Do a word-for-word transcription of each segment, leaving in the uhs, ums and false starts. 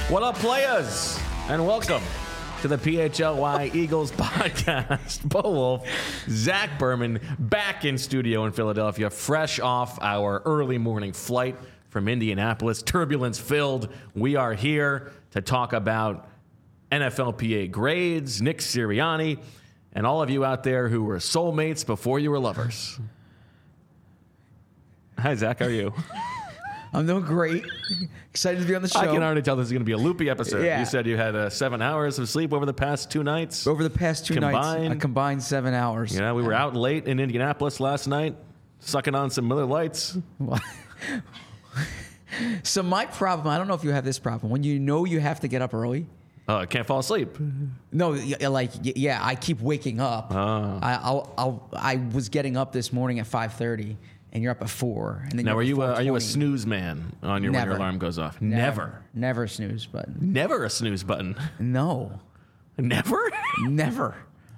What up, players? And welcome to the P H L Y Eagles podcast. Bo Wolf, Zach Berman, back in studio in Philadelphia, fresh off our early morning flight from Indianapolis, turbulence filled. We are here to talk about N F L P A grades, Nick Sirianni, and all of you out there who were soulmates before you were lovers. Hi, Zach. How are you? I'm doing great. Excited to be on the show. I can already tell this is going to be a loopy episode. Yeah. You said you had uh, seven hours of sleep over the past two nights. Over the past two combined. nights, I combined seven hours. Yeah, we were out late in Indianapolis last night, sucking on some Miller Lights. So my problem, I don't know if you have this problem, when you know you have to get up early. Oh, I can't fall asleep. No, y- like y- yeah, I keep waking up. Oh. I I'll, I'll, I was getting up this morning at five thirty, and you're up at four. And then Now, you're are up at you a, are you a four twenty. snooze man on your when your Never. alarm goes off? Never, Never. never a snooze button. Never a snooze button. No, Never? never.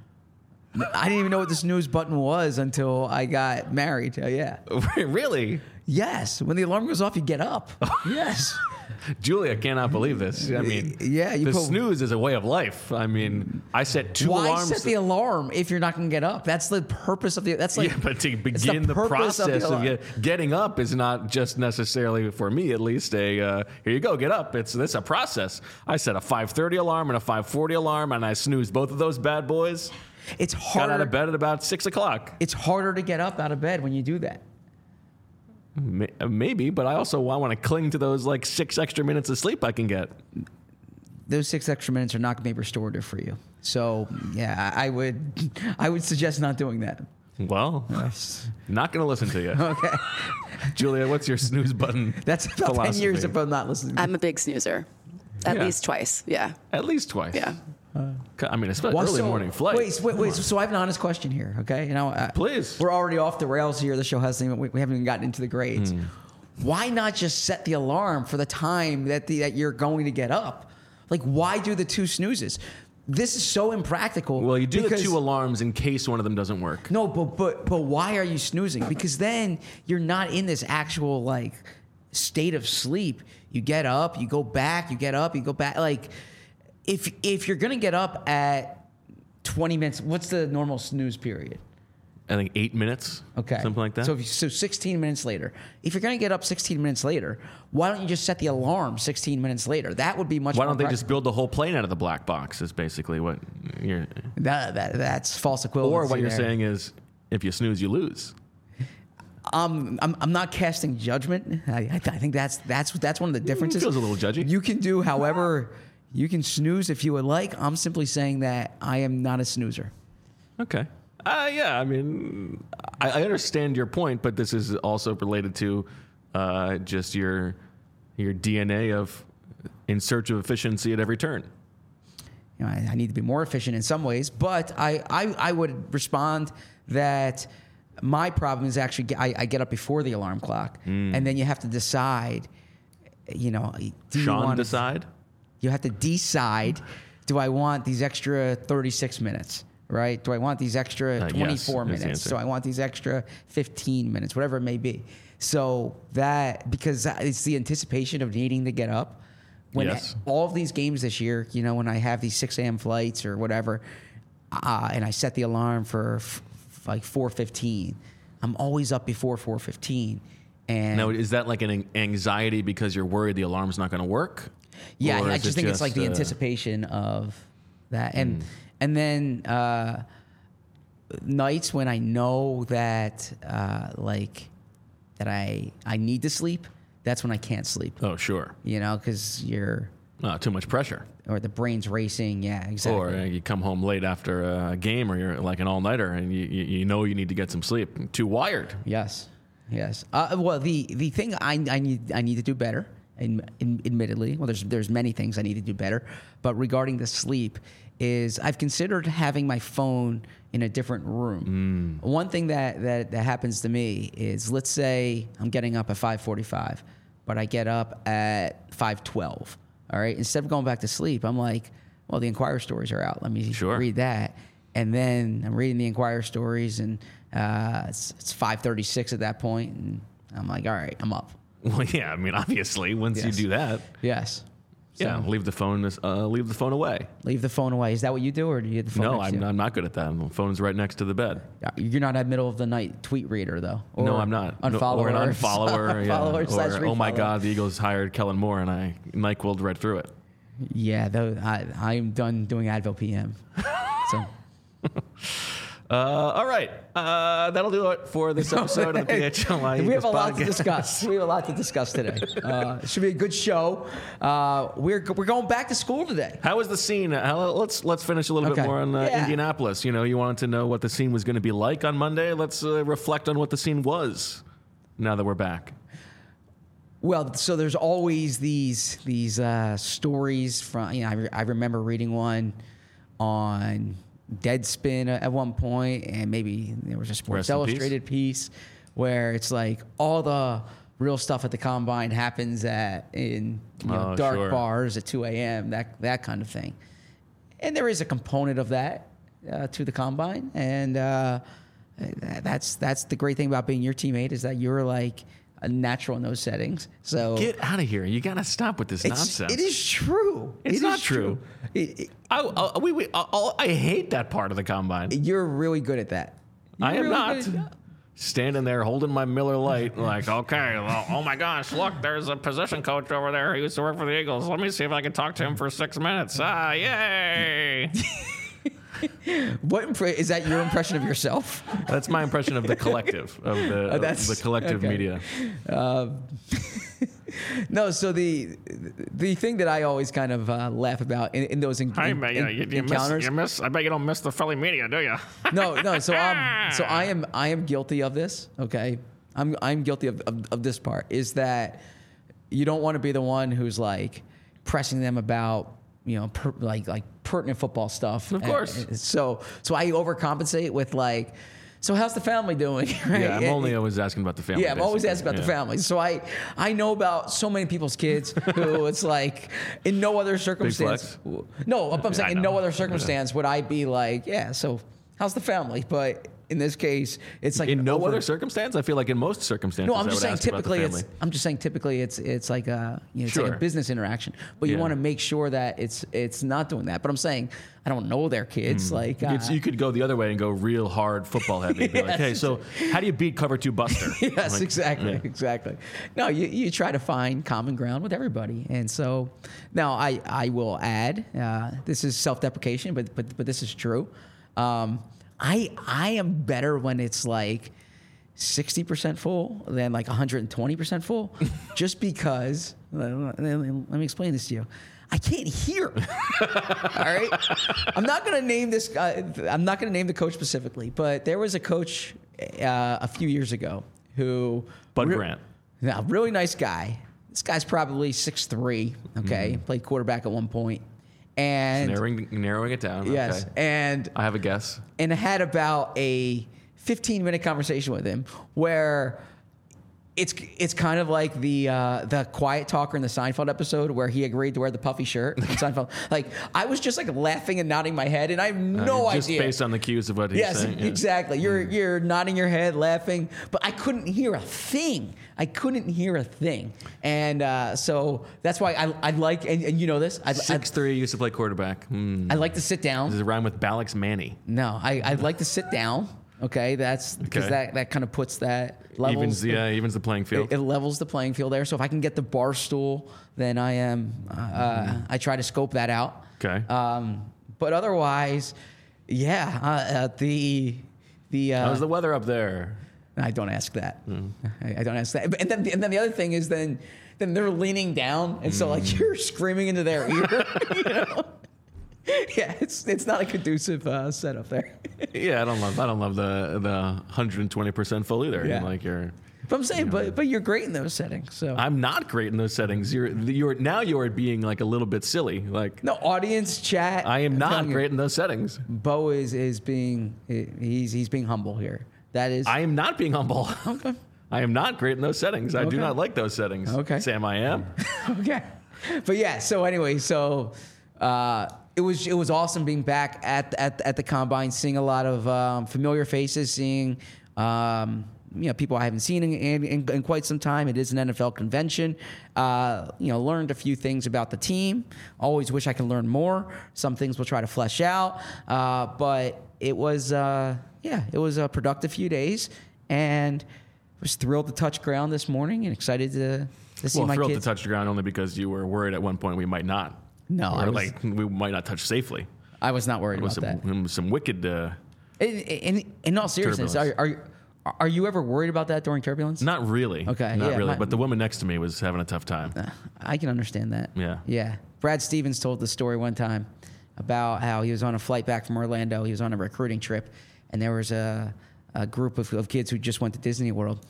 I didn't even know what the snooze button was until I got married. Uh, yeah. Really? Yes. When the alarm goes off, you get up. Yes. Julia cannot believe this. I mean, Yeah, you the put- snooze is a way of life. I mean, I set two Why alarms. set the alarm if you're not going to get up? That's the purpose of the. That's like. yeah, but to it's begin the, purpose process of, alarm. get, getting up is not just necessarily, for me at least, a uh, here you go, get up. It's this a process. I set a five thirty alarm and a five forty alarm, and I snoozed both of those bad boys. It's Got harder. out of bed at about six o'clock. It's harder to get up out of bed when you do that. May- Maybe, but I also want to cling to those like six extra minutes of sleep I can get. Those six extra minutes are not going to be restorative for you. So yeah, I I would, I would suggest not doing that. Well, Yes. not going to listen to you. Okay, Julia, what's your snooze button? that's about ten philosophy? years if I'm not listening. I'm a big snoozer. At Yeah. least twice. Yeah. At least twice. Yeah. I mean, especially Well, early so- morning flight. Wait, wait, wait. So I have an honest question here. Okay, you know, uh, Please. We're already off the rails here. The show hasn't even. We, we haven't even gotten into the grades. Hmm. Why not just set the alarm for the time that the, that you're going to get up? Like, why do the two snoozes? This is so impractical. Well, you do the because- two alarms in case one of them doesn't work. No, but but but why are you snoozing? Because then you're not in this actual like state of sleep. You get up, you go back, you get up, you go back. Like if if you're gonna get up at twenty minutes, what's the normal snooze period? I think eight minutes. Okay, Something like that. So if you, so sixteen minutes later, if you're gonna get up sixteen minutes later, why don't you just set the alarm sixteen minutes later? That would be much. Why more don't they just practical. build the whole plane out of the black box? Is basically what you're. that, that that's false equivalency. Or what you're there. saying is, if you snooze, you lose. Um, I'm, I'm not casting judgment. I, I, th- I think that's that's that's one of the differences. Feels a little judgy. You can do however you can snooze if you would like. I'm simply saying that I am not a snoozer. Okay. Uh, yeah, I mean, I, I understand your point, but this is also related to uh, just your your D N A of in search of efficiency at every turn. You know, I, I need to be more efficient in some ways, but I, I, I would respond that my problem is actually ge- I, I get up before the alarm clock, and then you have to decide. You know, do you Sean want decide? You have to decide: do I want these extra thirty-six minutes? Right? Do I want these extra Uh, yes, twenty-four is the minutes? answer. Do I want these extra fifteen minutes? Whatever it may be. So that because it's the anticipation of needing to get up. When Yes. all of these games this year, you know, when I have these six a.m. flights or whatever, uh, and I set the alarm for f- f- like four fifteen, I'm always up before four fifteen. And Now, is that like an anxiety because you're worried the alarm's not going to work? yeah, Or I is just it think it's like the uh, anticipation of that, and Hmm. and then uh, nights when I know that uh, like that I I need to sleep, that's when I can't sleep. Oh, sure. You know, because you're Uh, too much pressure. or the brain's racing. Yeah, exactly. Or uh, you come home late after a game or you're like an all-nighter and you, you, you know you need to get some sleep. Too wired. Yes, yes. Uh, well, the the thing I, I need I need to do better. In, in, admittedly, well, there's there's many things I need to do better, but regarding the sleep, is I've considered having my phone in a different room. One thing that, that that happens to me is, let's say I'm getting up at five forty-five, but I get up at five twelve. All right, instead of going back to sleep, I'm like, well, the Inquirer stories are out. Let me Sure. read that. And then I'm reading the Inquirer stories, and uh, it's, it's five thirty-six at that point, and I'm like, all right, I'm up. Well, yeah, I mean, obviously, once Yes. you do that. Yes. So Yeah, leave the phone. Uh, leave the phone away. leave the phone away. Is that what you do, or do you have the phone No, next to I'm, you? I'm not good at that. The phone's right next to the bed. You're not a middle of the night tweet reader, though. Or no, I'm not. No, Unfollower. or an unfollower. yeah. Unfollower slash Or, oh my refollow. God, the Eagles hired Kellen Moore, and I NyQuil'd right through it. Yeah, though I I'm done doing Advil P M. So. Uh, all right, uh, that'll do it for this episode of the P H L Y. We have a lot to podcast. discuss. We have a lot to discuss today. Uh, it should be a good show. Uh, we're we're going back to school today. How was the scene? How, let's let's finish a little Okay. bit more on uh, Yeah. Indianapolis. You know, you wanted to know what the scene was going to be like on Monday. Let's uh, reflect on what the scene was. Now that we're back. Well, so there's always these these uh, stories from. You know, I, re- I remember reading one on Deadspin at one point, and maybe there was a Sports Rest in Illustrated piece where it's like all the real stuff at the combine happens at in you know, Oh, dark sure. bars at two a.m. that that kind of thing, and there is a component of that uh, to the combine, and uh, that's that's the great thing about being your teammate is that you're like a natural in those settings. So Get out of here! You got to stop with this it's, nonsense. it is true. It's It not is true. It- it- I, I, we, we, I, I hate that part of the combine. you're really good at that. I You're am really not. good at- Standing there holding my Miller Lite, like, okay, well, oh my gosh, look, there's a position coach over there who used to work for the Eagles. Let me see if I can talk to him for six minutes. Ah, yay! What impre- is that? Your impression of yourself? That's my impression of the collective, of the, of that's- the collective okay. media. No. So the the thing that I always kind of uh, laugh about in, in those en- Hey, en- man, you, en- you, you, miss, encounters. you miss, I bet you don't miss the Philly media, do you? No, no. So I'm so I am I am guilty of this. Okay, I'm I'm guilty of, of, of this part. Is that you don't want to be the one who's like pressing them about you know per, like like pertinent football stuff. Of course. And- and so so I overcompensate with like, so how's the family doing? Right? Yeah, I'm And- only always asking about the family. Yeah, I'm always basically. asking about Yeah. the family. So I, I know about so many people's kids who it's like in no other circumstance. No, I'm saying I in no know. other circumstance would I be like, yeah. So how's the family? But in this case, it's like In an no over- other circumstance? I feel like in most circumstances, No, I'm I just would saying ask about the typically it's. family. I'm just saying typically it's it's like a you know, it's like Sure. a business interaction, but you Yeah. want to make sure that it's it's not doing that. But I'm saying I don't know their kids. Like uh, It's- you could go the other way and go real hard football heavy. Be like, Yes. hey, so how do you beat cover two Buster? Yes, Like, exactly, yeah. exactly. No, you, you try to find common ground with everybody, and so now I I will add uh, this is self deprecation, but but but this is true. Um, I I am better when it's like sixty percent full than like one hundred twenty percent full, just because. Let me explain this to you. I can't hear. All right. I'm not going to name this. Uh, I'm not going to name the coach specifically, but there was a coach uh, a few years ago who Bud re- Grant. Yeah, really nice guy. This guy's probably six three. Okay, Mm-hmm. played quarterback at one point, and Narrowing, narrowing it down. yes, Okay. and I have a guess. and had about a fifteen minute conversation with him where it's it's kind of like the uh, the quiet talker in the Seinfeld episode where he agreed to wear the puffy shirt in Seinfeld. Like I was just like laughing and nodding my head, and I have no Uh, just idea. based on the cues of what he's Yes, saying. yeah. exactly. You're you're nodding your head, laughing, but I couldn't hear a thing. I couldn't hear a thing, and uh, so that's why I I like and, and you know this. I, I, Six three used to play quarterback. Hmm. I like to sit down. Does it rhyme with Balix Manny? No, I I'd like to sit down. Okay, that's because Okay. that that kind of puts that levels. Evens the, uh, evens the playing field. It, it levels the playing field there. So if I can get the bar stool, then I am. Uh, I try to scope that out. Okay. Um, but otherwise, yeah, uh, uh, the the. Uh, How's the weather up there? I don't ask that. I, I don't ask that. And then and then the other thing is then then they're leaning down, and so like you're screaming into their ear. You know? Yeah, it's it's not a conducive uh, setup there. Yeah, I don't love. I don't love the the one hundred twenty percent full either. Yeah. Like you're. But I'm saying, but but you're great in those settings. So I'm not great in those settings. You're you're now you're being like a little bit silly. Like no audience chat. I am I'm not telling you, great in those settings. Bo is is being he's he's being humble here. That is. I am not being humble. Okay. I am not great in those settings. I do Okay. not like those settings. Okay. Sam, I am. Okay. But yeah, so anyway, so uh, it was it was awesome being back at at at the combine, seeing a lot of um, familiar faces, seeing um, you know, people I haven't seen in, in, in, in quite some time. It is an N F L convention. Uh, you know, learned a few things about the team. Always wish I could learn more. Some things we'll try to flesh out. Uh, but it was, uh, yeah, it was a productive few days, and was thrilled to touch ground this morning and excited to, to see well, my thrilled kids. to touch the ground only because you were worried at one point we might not. No, or I was, like we might not touch safely. I was not worried It was about some, that. some wicked. Uh, In, in, in all seriousness, are, Turbulence. are are you ever worried about that during turbulence? not really. Okay, Not yeah, really. my- but the woman next to me was having a tough time. I can understand that. Yeah. Yeah. Brad Stevens told the story one time about how he was on a flight back from Orlando. He was on a recruiting trip, and there was a, a group of, of kids who just went to Disney World,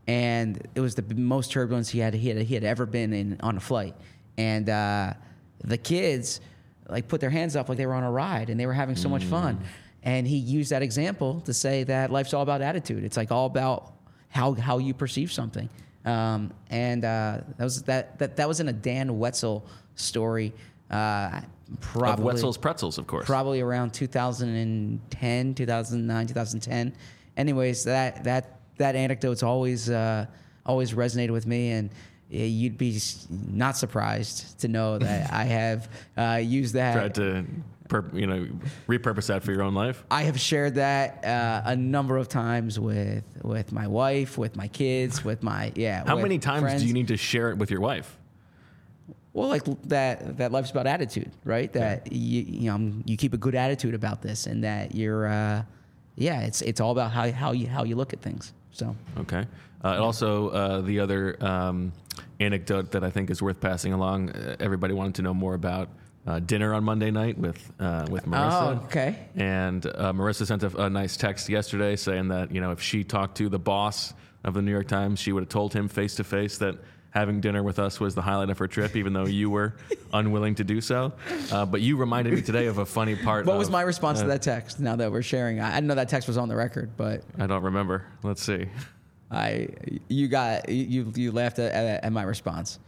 and it was the most turbulence he had he had, he had ever been in on a flight. And uh, the kids like put their hands up like they were on a ride, and they were having so much fun. And he used that example to say that life's all about attitude. It's like all about how how you perceive something. Um, and uh, that was that, that that was in a Dan Wetzel story. Uh, probably Of Wetzel's Pretzels, of course. probably around two thousand ten, two thousand nine, two thousand ten. Anyways, that that that anecdote's always uh, always resonated with me, and uh, you'd be s- not surprised to know that I have uh, used that. Tried to, pur- you know, repurpose that for your own life. I have shared that uh, a number of times with with my wife, with my kids, with my yeah. How with many times friends. do you need to share it with your wife? Well, like that that life's about attitude, right? That you you know you keep a good attitude about this, and that you're uh, yeah, it's it's all about how how you how you look at things. So Okay. Uh, and also, uh, the other um, anecdote that I think is worth passing along. Uh, everybody wanted to know more about uh, dinner on Monday night with uh, with Marissa. Oh, okay. And uh, Marissa sent a, a nice text yesterday saying that, you know, if she talked to the boss of the New York Times, she would have told him face to face that having dinner with us was the highlight of her trip, even though you were unwilling to do so. Uh, but you reminded me today of a funny part. what of, was my response uh, to that text? Now that we're sharing, I, I didn't know that text was on the record, but I don't remember. Let's see. I you got you you laughed at, at, at my response.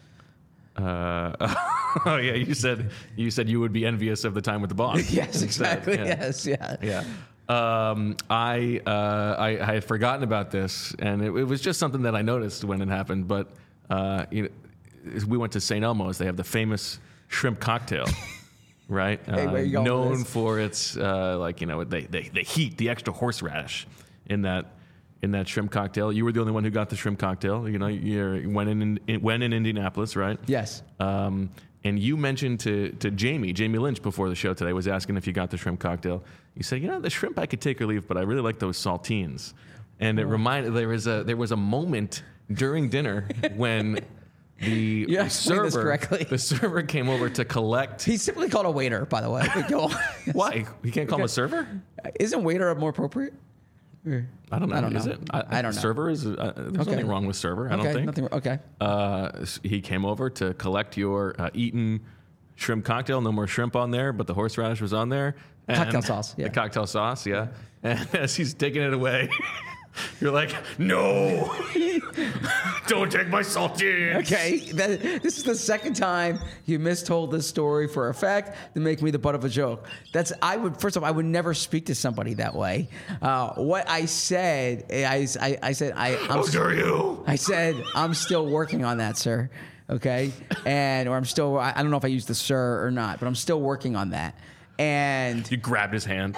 Uh, oh yeah, you said you said you would be envious of the time with the boss. Yes, instead. exactly. Yeah. Yes, yeah. Yeah. Um, I, uh, I I had forgotten about this, and it, it was just something that I noticed when it happened. But uh, you know, we went to Saint Elmo's. They have the famous shrimp cocktail, right? Hey, where Uh, you going with known this? for its uh, like you know they, they the heat, the extra horseradish in that in that shrimp cocktail. You were the only one who got the shrimp cocktail. You know, you went in, in went in Indianapolis, right? Yes. Um, and you mentioned to, to Jamie, Jamie Lynch before the show today was asking if you got the shrimp cocktail. You said, you know, the shrimp I could take or leave, but I really like those saltines. And it reminded there was a there was a moment during dinner when the You explained this server correctly. the server came over to collect. He's simply called a waiter, by the way. But go on. Why? You can't call him a server? Isn't waiter more appropriate? Or- I don't know. I don't Is know. it? I don't know. Server is. Uh, there's Okay. nothing wrong with server. I okay, don't think. nothing. Okay. Uh, s- he came over to collect your uh, eaten shrimp cocktail. No more shrimp on there, but the horseradish was on there. And Cocktail sauce, yeah. The cocktail sauce, yeah. And as he's taking it away, you're like, no, don't take my saltines. Okay, that, this is the second time you mistold this story for a fact to make me the butt of a joke. That's I would first of all I would never speak to somebody that way. Uh, what I said, I, I, I said I I'm, How dare you? I said I'm still working on that, sir. Okay, and or I'm still I I don't know if I used the sir or not, but I'm still working on that. And You grabbed his hand.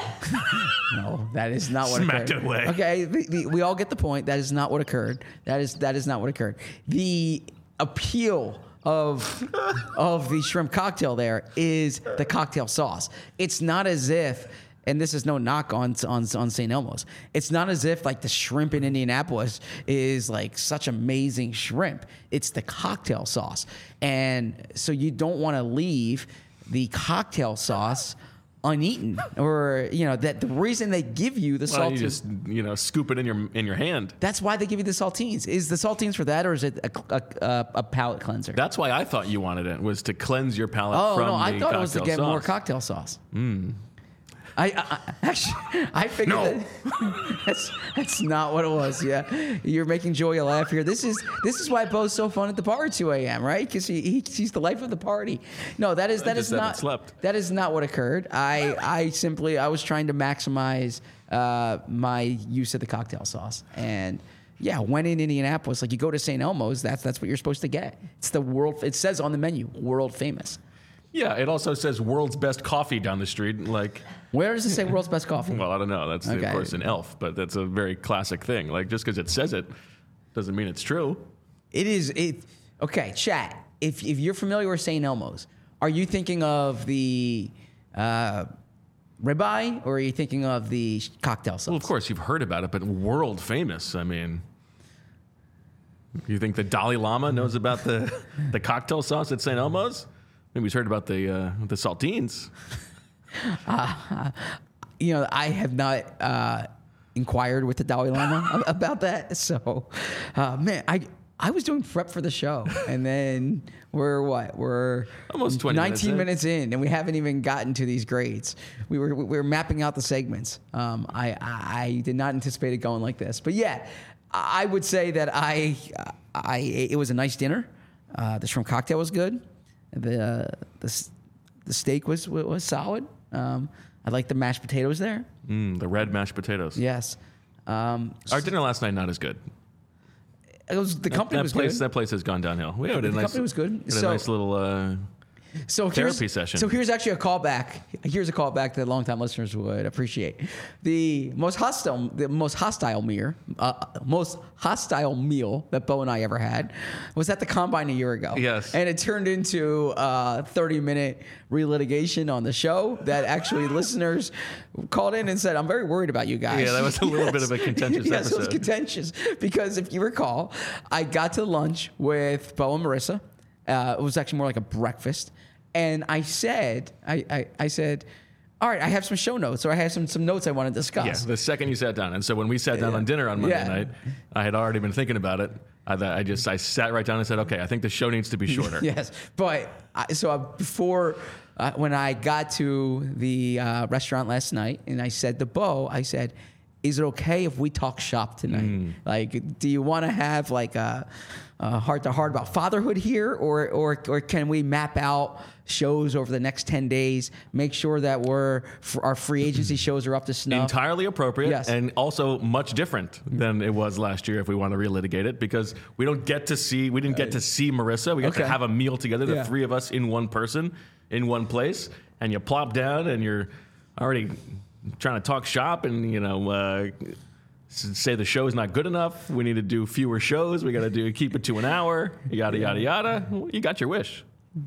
no, that is not what Smacked occurred. it away. Okay, the, the, we all get the point. That is not what occurred. That is that is not what occurred. The appeal of of the shrimp cocktail there is the cocktail sauce. It's not as if, and this is no knock on on on Saint Elmo's. It's not as if like the shrimp in Indianapolis is like such amazing shrimp. It's the cocktail sauce, and so you don't want to leave the cocktail sauce uneaten, or you know that the reason they give you the Well, you saltines. just you know scoop it in your in your hand. That's why they give you the saltines. Is the saltines for that, or is it a, a, a, a palate cleanser? That's why I thought you wanted it was to cleanse your palate oh from no, the I thought it was to cocktail get more sauce. cocktail sauce. I, I, I actually I figured No. that that's that's not what it was. Yeah, you're making Joey laugh here. This is this is why Bo's so fun at the bar at two a.m. Right? Because he, he he's the life of the party. No, that is that just is haven't not slept. that is not what occurred. I I simply I was trying to maximize uh, my use of the cocktail sauce, and Yeah, when in Indianapolis, like you go to Saint Elmo's, that's that's what you're supposed to get. It's the world. It says on the menu, world famous. Yeah, it also says world's best coffee down the street. Like, Where does it say world's best coffee? well, I don't know. That's Okay. of course an elf, but that's a very classic thing. Like, just because it says it doesn't mean it's true. It is it. Okay, chat. If if you're familiar with Saint Elmo's, are you thinking of the uh, ribeye or are you thinking of the cocktail sauce? Well, of course you've heard about it, but world famous. I mean, you think the Dalai Lama knows about the the cocktail sauce at Saint Elmo's? Maybe he's heard about the uh, the saltines. You know, I have not uh, inquired with the Dalai Lama about that. So, uh, man, I I was doing prep for the show, and then we're what? We're Almost twenty minutes nineteen in. minutes in, and we haven't even gotten to these grades. We were we were mapping out the segments. Um, I, I I did not anticipate it going like this, but yeah, I would say that I I it was a nice dinner. Uh, the shrimp cocktail was good. The uh, the s- the steak was was solid. Um, I like the mashed potatoes there. Mm, the red mashed potatoes. Yes. Um, Our dinner last night not as good. it was the company that was place good. that place has gone downhill. We had a The nice company was good. had a So- nice little. Uh, So therapy here's, session. So here's actually a callback. Here's a callback that longtime listeners would appreciate. The most hostile, the most hostile meal, uh, most hostile meal that Bo and I ever had was at the combine a year ago. Yes. and it turned into a thirty minute relitigation on the show that actually listeners called in and said, "I'm very worried about you guys." Yeah, that was a little bit of a contentious yes, it was episode. contentious because if you recall, I got to lunch with Bo and Marissa. Uh, it was actually more like a breakfast. And I said, I, I, I said, all right, I have some show notes, or I have some, some notes I want to discuss. yeah, the second you sat down, and so when we sat down Yeah. on dinner on Monday Yeah. night, I had already been thinking about it. I, thought- I just I sat right down and said, okay, I think the show needs to be shorter. Yes. But I, so I, before, uh, when I got to the uh, restaurant last night and I said to Bo, I said, is it okay if we talk shop tonight? Mm. Like, do you want to have like a, a heart to heart about fatherhood here, or or or can we map out shows over the next ten days? Make sure that we're our free agency shows are up to snuff. Entirely appropriate, Yes. and also much different than it was last year if we want to relitigate it, because we don't get to see we didn't get to see Marissa. We got Okay. to have a meal together, the Yeah. three of us in one person, in one place, and you plop down and you're already trying to talk shop and you know uh, s- say the show's not good enough. We need to do fewer shows. We got to do keep it to an hour. Yada yada yada. Well, you got your wish.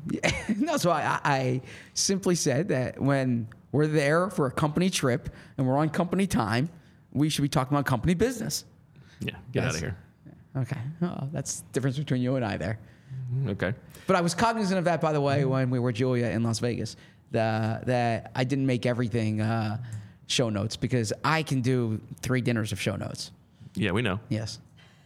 No, so I, I simply said that when we're there for a company trip and we're on company time, we should be talking about company business. Yeah, get Yes. out of here. Okay. Oh, that's the difference between you and I there. Okay. But I was cognizant of that, by the way, when we were Julia in Las Vegas, the, that I didn't make everything uh, show notes because I can do three dinners of show notes. Yeah, we know. Yes.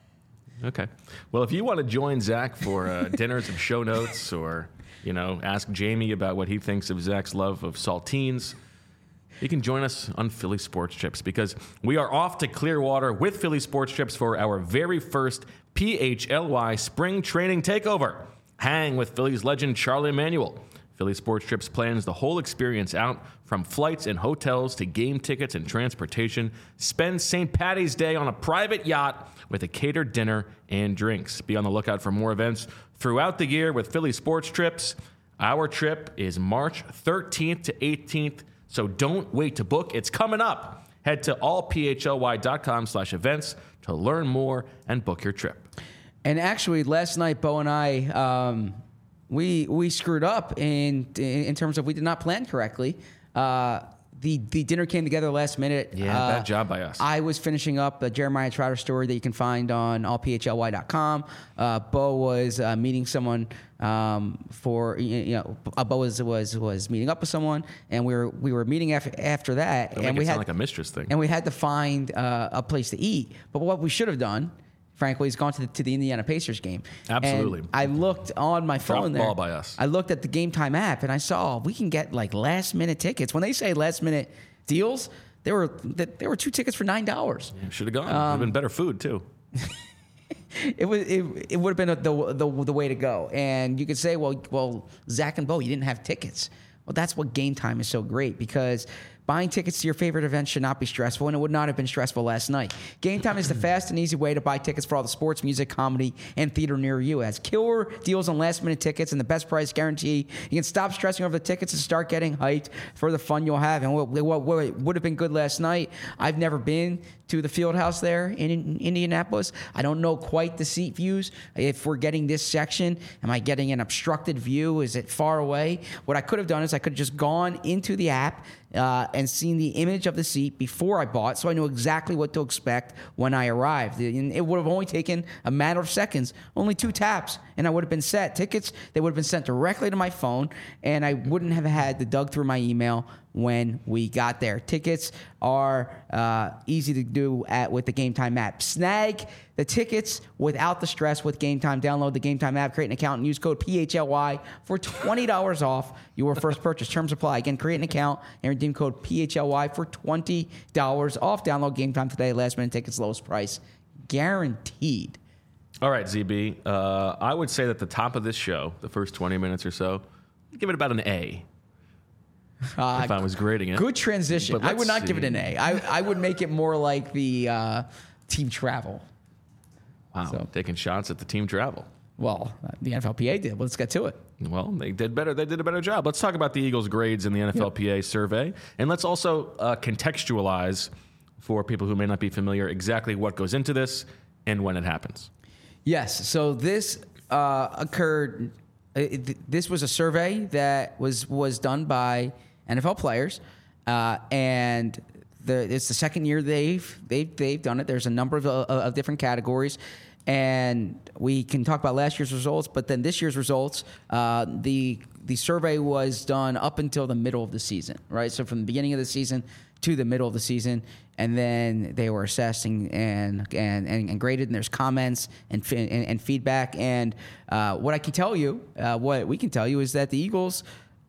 Okay. Well, if you want to join Zach for uh, dinners of show notes, or you know, ask Jamie about what he thinks of Zach's love of saltines, you can join us on Philly Sports Trips, because we are off to Clearwater with Philly Sports Trips for our very first P H L Y Spring Training Takeover. Hang with Phillies legend Charlie Emanuel. Philly Sports Trips plans the whole experience out, from flights and hotels to game tickets and transportation. Spend Saint Patty's Day on a private yacht with a catered dinner and drinks. Be on the lookout for more events throughout the year with Philly Sports Trips. Our trip is March thirteenth to eighteenth, so don't wait to book. It's coming up. Head to all p h l y dot com slash events to learn more and book your trip. And actually, last night, Bo and I, um, we we screwed up in in terms of we did not plan correctly. Uh, the the dinner came together last minute. Yeah, Uh, bad job by us. I was finishing up the Jeremiah Trotter story that you can find on all p h l y dot com. Uh, Bo was uh, meeting someone um, for you you know. Uh, Bo was was was meeting up with someone, and we were we were meeting after after that, Don't and make we it had sound like a mistress thing. and we had to find uh, a place to eat. But what we should have done, frankly, is gone to the, to the Indiana Pacers game. Absolutely. And I looked on my phone there. ball by us. I looked at the Game Time app and I saw we can get like last minute tickets. When they say last minute deals, there were there were two tickets for nine dollars. Should have gone. Would have been better food, too. It was it, it would have been the, the the way to go. And you could say, well, well, Zach and Bo, you didn't have tickets. Well, that's what Game Time is so great, because Buying tickets to your favorite events should not be stressful, and it would not have been stressful last night. Game Time is the fast and easy way to buy tickets for all the sports, music, comedy, and theater near you. It has killer deals on last-minute tickets and the best price guarantee. You can stop stressing over the tickets and start getting hyped for the fun you'll have. And what, what, what would have been good last night, I've never been to the field house there in, in Indianapolis. I don't know quite the seat views. If we're getting this section, am I getting an obstructed view? Is it far away? What I could have done is I could have just gone into the app uh, and seen the image of the seat before I bought, so I knew exactly what to expect when I arrived. And it would have only taken a matter of seconds, only two taps, and I would have been set. Tickets, they would have been sent directly to my phone, and I wouldn't have had to dug through my email when we got there. Tickets are uh, easy to do at with the Game Time app. Snag the tickets without the stress with Game Time. Download the Game Time app, create an account, and use code P H L Y for twenty dollars off your first purchase. Terms apply. Again, create an account and redeem code P H L Y for twenty dollars off. Download Game Time today. Last minute tickets, lowest price. Guaranteed. All right, Z B. Uh, I would say that the top of this show, the first twenty minutes or so, give it about an A. Uh, if I was grading it. Good transition. I would not see. give it an A. I, I would make it more like the uh, team travel. Wow, so, taking shots at the team travel. Well, the N F L P A did. Let's get to it. Well, they did better. They did a better job. Let's talk about the Eagles' grades in the N F L P A yep. survey. And let's also uh, contextualize for people who may not be familiar exactly what goes into this and when it happens. Yes. So this uh, occurred. It, this was a survey that was was done by N F L players, uh, and the, it's the second year they've they've they've done it. There's a number of, uh, of different categories, and we can talk about last year's results. But then this year's results, uh, the the survey was done up until the middle of the season, right? So from the beginning of the season to the middle of the season, and then they were assessing and and and, and graded. And there's comments and and, and feedback. And uh, what I can tell you, uh, what we can tell you, is that the Eagles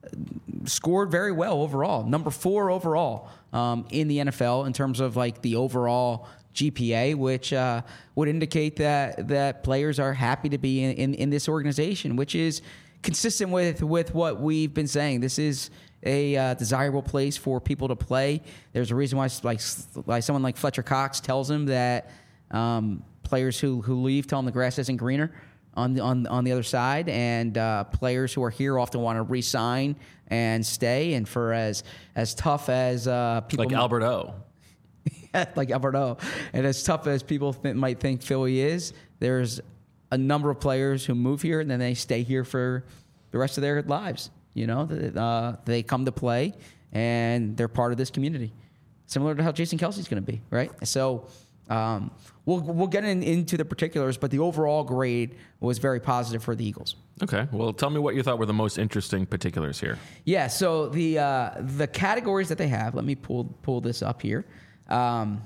scored very well overall, number four overall um, in the N F L in terms of like the overall G P A, which uh, would indicate that that players are happy to be in, in, in this organization, which is consistent with, with what we've been saying. This is a uh, desirable place for people to play. There's a reason why, like, like someone like Fletcher Cox tells him that um, players who, who leave tell him the grass isn't greener on the on on the other side, and uh, players who are here often want to re-sign and stay. And for as as tough as uh, people like might, Albert O, like Albert O, and as tough as people th- might think Philly is, there's a number of players who move here and then they stay here for the rest of their lives. You know, uh, they come to play and they're part of this community, similar to how Jason Kelsey's going to be, right? So um, we'll we'll get in, into the particulars, but the overall grade was very positive for the Eagles. Okay, well, tell me what you thought were the most interesting particulars here. Yeah, so the uh, the categories that they have. Let me pull pull this up here. Um,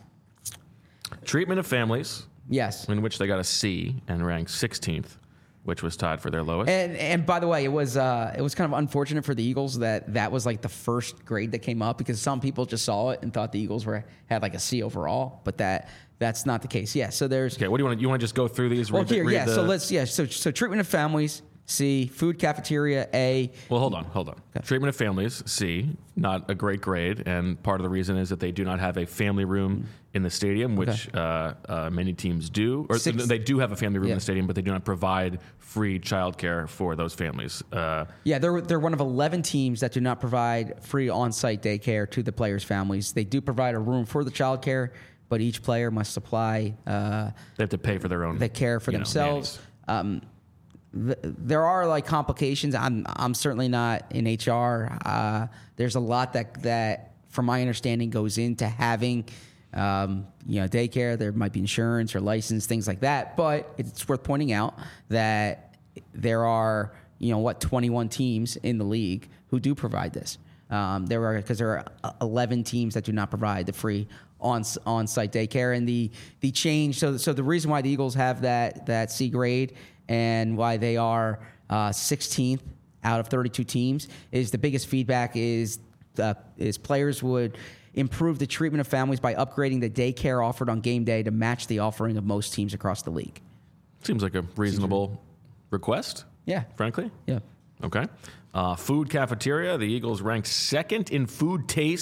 Treatment of families. Yes, in which they got a C and ranked sixteenth, which was tied for their lowest. And and by the way, it was uh, it was kind of unfortunate for the Eagles that that was like the first grade that came up, because some people just saw it and thought the Eagles were had like a C overall, but that that's not the case. Yeah, so there's okay. What do you want? You want to just go through these? Well, read, here, read yeah. the, So let's yeah. So so treatment of families, C. Food cafeteria, A. Well, hold on, hold on. Okay. Treatment of families, C. Not a great grade, and part of the reason is that they do not have a family room in the stadium, which okay. uh, uh, many teams do. Or Six. They do have a family room yeah. in the stadium, but they do not provide free childcare for those families. Uh, yeah, they're they're one of eleven teams that do not provide free on-site daycare to the players' families. They do provide a room for the childcare, but each player must supply. Uh, they have to pay for their own. The care for themselves. Know, um, th- there are like complications. I'm I'm certainly not in H R. Uh, there's a lot that that, from my understanding, goes into having. Um, you know, daycare, there might be insurance or license, things like that. But it's worth pointing out that there are, you know, what, twenty-one teams in the league who do provide this. Um, there are, because there are eleven teams that do not provide the free on on-site daycare. And the the change, so so the reason why the Eagles have that that C grade and why they are uh, sixteenth out of thirty-two teams is the biggest feedback is uh, is players would improve the treatment of families by upgrading the daycare offered on game day to match the offering of most teams across the league. Seems like a reasonable request. Yeah. Frankly. Yeah. Okay. Uh, food cafeteria. The Eagles ranked second in food taste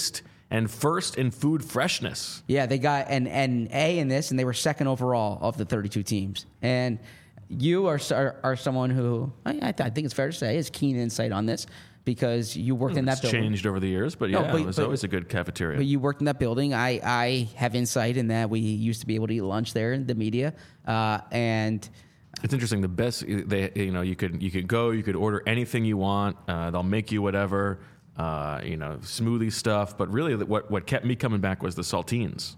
and first in food freshness. Yeah, they got an, an A in this, and they were second overall of the thirty-two teams. And you are are, are someone who, I, I, th- I think it's fair to say, has keen insight on this because you worked in that It's building. changed over the years, but yeah, No, but- it was but- always a good cafeteria. But you worked in that building. I, I have insight in that we used to be able to eat lunch there in the media. Uh, and It's interesting. The best, they, you know, you could you could go, you could order anything you want. Uh, they'll make you whatever, uh, you know, smoothie stuff. But really, what what kept me coming back was the saltines.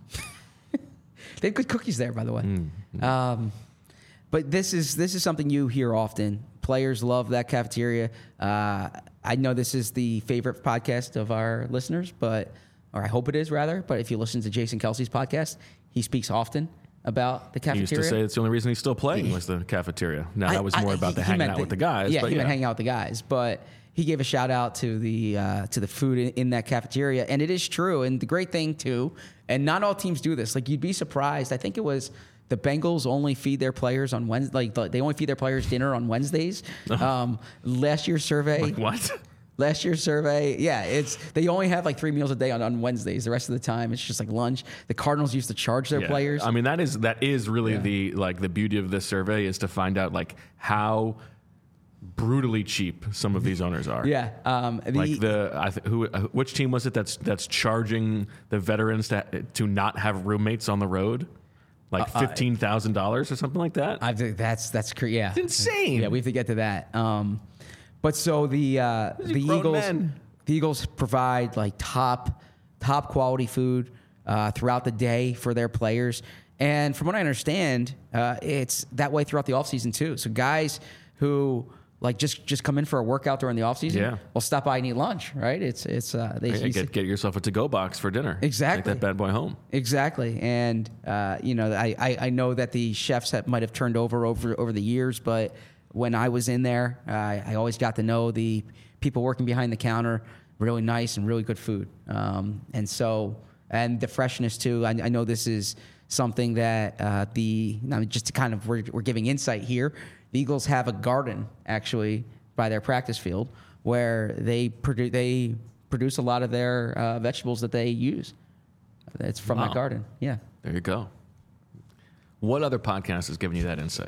they have good cookies there, by the way. Mm. Um, but this is this is something you hear often. Players love that cafeteria. Uh, I know this is the favorite podcast of our listeners, but or I hope it is rather. But if you listen to Jason Kelsey's podcast, he speaks often about the He cafeteria. used to say it's the only reason he's still playing was the cafeteria. Now I- that was I- more he- about the he hanging meant out the- with the guys. Yeah, but he yeah. meant hanging out with the guys. But he gave a shout out to the uh, to the food in, in that cafeteria, and it is true. And the great thing too, and not all teams do this. Like you'd be surprised. I think it was the Bengals only feed their players on Wednesday. Like they only feed their players dinner on Wednesdays. Um, last year's survey. What? Last year's survey, yeah, it's they only have like three meals a day on, on Wednesdays. The rest of the time, it's just like lunch. The Cardinals used to charge their Yeah. players. I mean, that is that is really Yeah. the like the beauty of this survey is to find out like how brutally cheap some of these owners are. yeah, um, the, Like the I th- who uh, which team was it that's that's charging the veterans to to not have roommates on the road, like fifteen thousand dollars or something like that. I think that's that's cre- yeah, It's insane. Yeah, we have to get to that. Um, but so the uh, the grown Eagles men. the Eagles provide like top top quality food uh, throughout the day for their players, and from what I understand, uh, it's that way throughout the offseason too. So guys who like just just come in for a workout during the offseason, Yeah. will stop by and eat lunch. Right? It's it's uh, they Yeah, you get get yourself a to go box for dinner. Exactly. Take that bad boy home. Exactly, and uh, you know, I, I, I know that the chefs have, might have turned over over over the years, but when I was in there, uh, I always got to know the people working behind the counter. Really nice and really good food, um, and so and the freshness too. I, I know this is something that uh, the I mean, just to kind of we're, we're giving insight here. The Eagles have a garden actually by their practice field where they produce they produce a lot of their uh, vegetables that they use. It's from Wow. that garden. Yeah. There you go. What other podcast has given you that insight?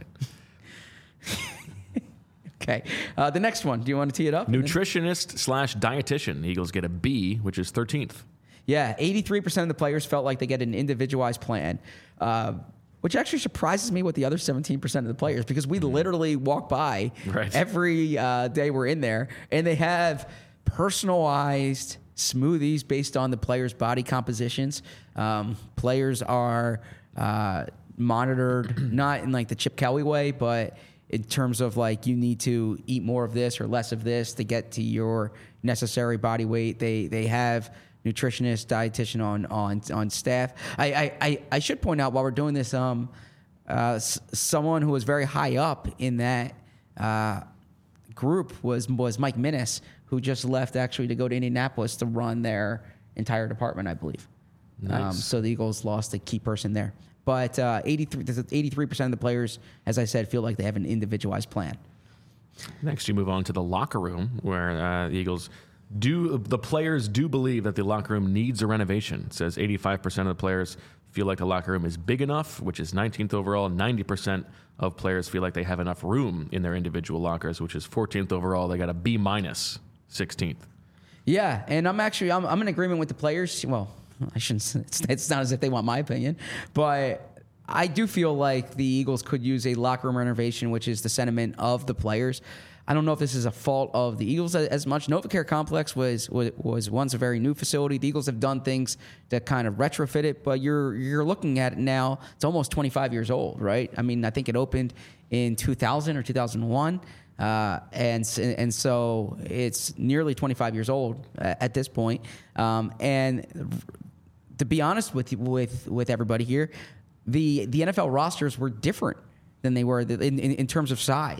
Okay. Uh, the next one. Do you want to tee it up? Nutritionist slash dietitian. The Eagles get a B, which is thirteenth. Yeah. eighty-three percent of the players felt like they get an individualized plan, uh, which actually surprises me with the other seventeen percent of the players because we literally walk by Right. every uh, day we're in there and they have personalized smoothies based on the players' body compositions. Um, players are uh, monitored, not in like the Chip Kelly way, but in terms of like you need to eat more of this or less of this to get to your necessary body weight. They they have nutritionist, dietitian on on on staff. I I, I, I should point out while we're doing this, um, uh, s- someone who was very high up in that uh, group was was Mike Minnis, who just left actually to go to Indianapolis to run their entire department, I believe. Um, Nice. so the Eagles lost a key person there. But uh, eighty-three, eighty-three percent of the players, as I said, feel like they have an individualized plan. Next, you move on to the locker room, where uh, the Eagles do the players do believe that the locker room needs a renovation. It says eighty-five percent of the players feel like the locker room is big enough, which is nineteenth overall. ninety percent of players feel like they have enough room in their individual lockers, which is fourteenth overall. They got a B minus, sixteenth. Yeah, and I'm actually I'm, I'm in agreement with the players. Well, I shouldn't. say- It's, it's not as if they want my opinion, but I do feel like the Eagles could use a locker room renovation, which is the sentiment of the players. I don't know if this is a fault of the Eagles as, as much. NovaCare Complex was, was was once a very new facility. The Eagles have done things that kind of retrofit it, but you're you're looking at it now. It's almost twenty-five years old, right? I mean, I think it opened in two thousand or two thousand one. Uh, and s- and so it's nearly twenty-five years old uh, at this point. Um, and to be honest with you, with with everybody here, the the N F L rosters were different than they were in in, in terms of size.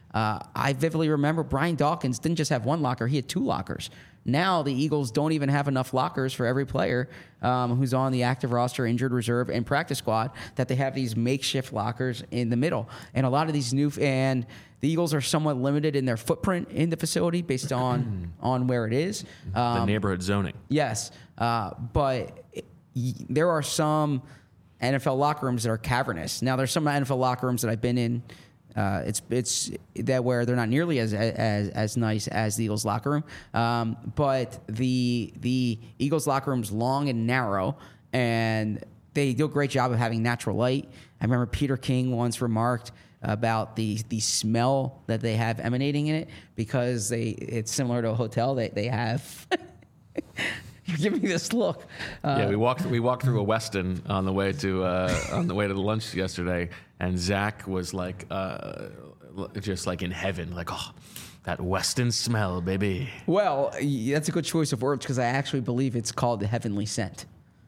Uh, I vividly remember Brian Dawkins didn't just have one locker; he had two lockers. Now the Eagles don't even have enough lockers for every player um, who's on the active roster, injured reserve, and practice squad, that they have these makeshift lockers in the middle. And a lot of these new and the Eagles are somewhat limited in their footprint in the facility based on on where it is. Um, the neighborhood zoning. Yes, uh, but it, y- there are some N F L locker rooms that are cavernous. Now, there's some N F L locker rooms that I've been in. Uh, it's it's that where they're not nearly as as as nice as the Eagles locker room, um, but the the Eagles locker room's long and narrow, and they do a great job of having natural light. I remember Peter King once remarked about the the smell that they have emanating in it, because they it's similar to a hotel. They they have. You're giving me this look. Uh, yeah, we walked we walked through a Westin on the way to uh, on the way to the lunch yesterday, and Zach was like, uh, just like in heaven, like, oh, that Westin smell, baby. Well, y- that's a good choice of words, because I actually believe it's called the heavenly scent.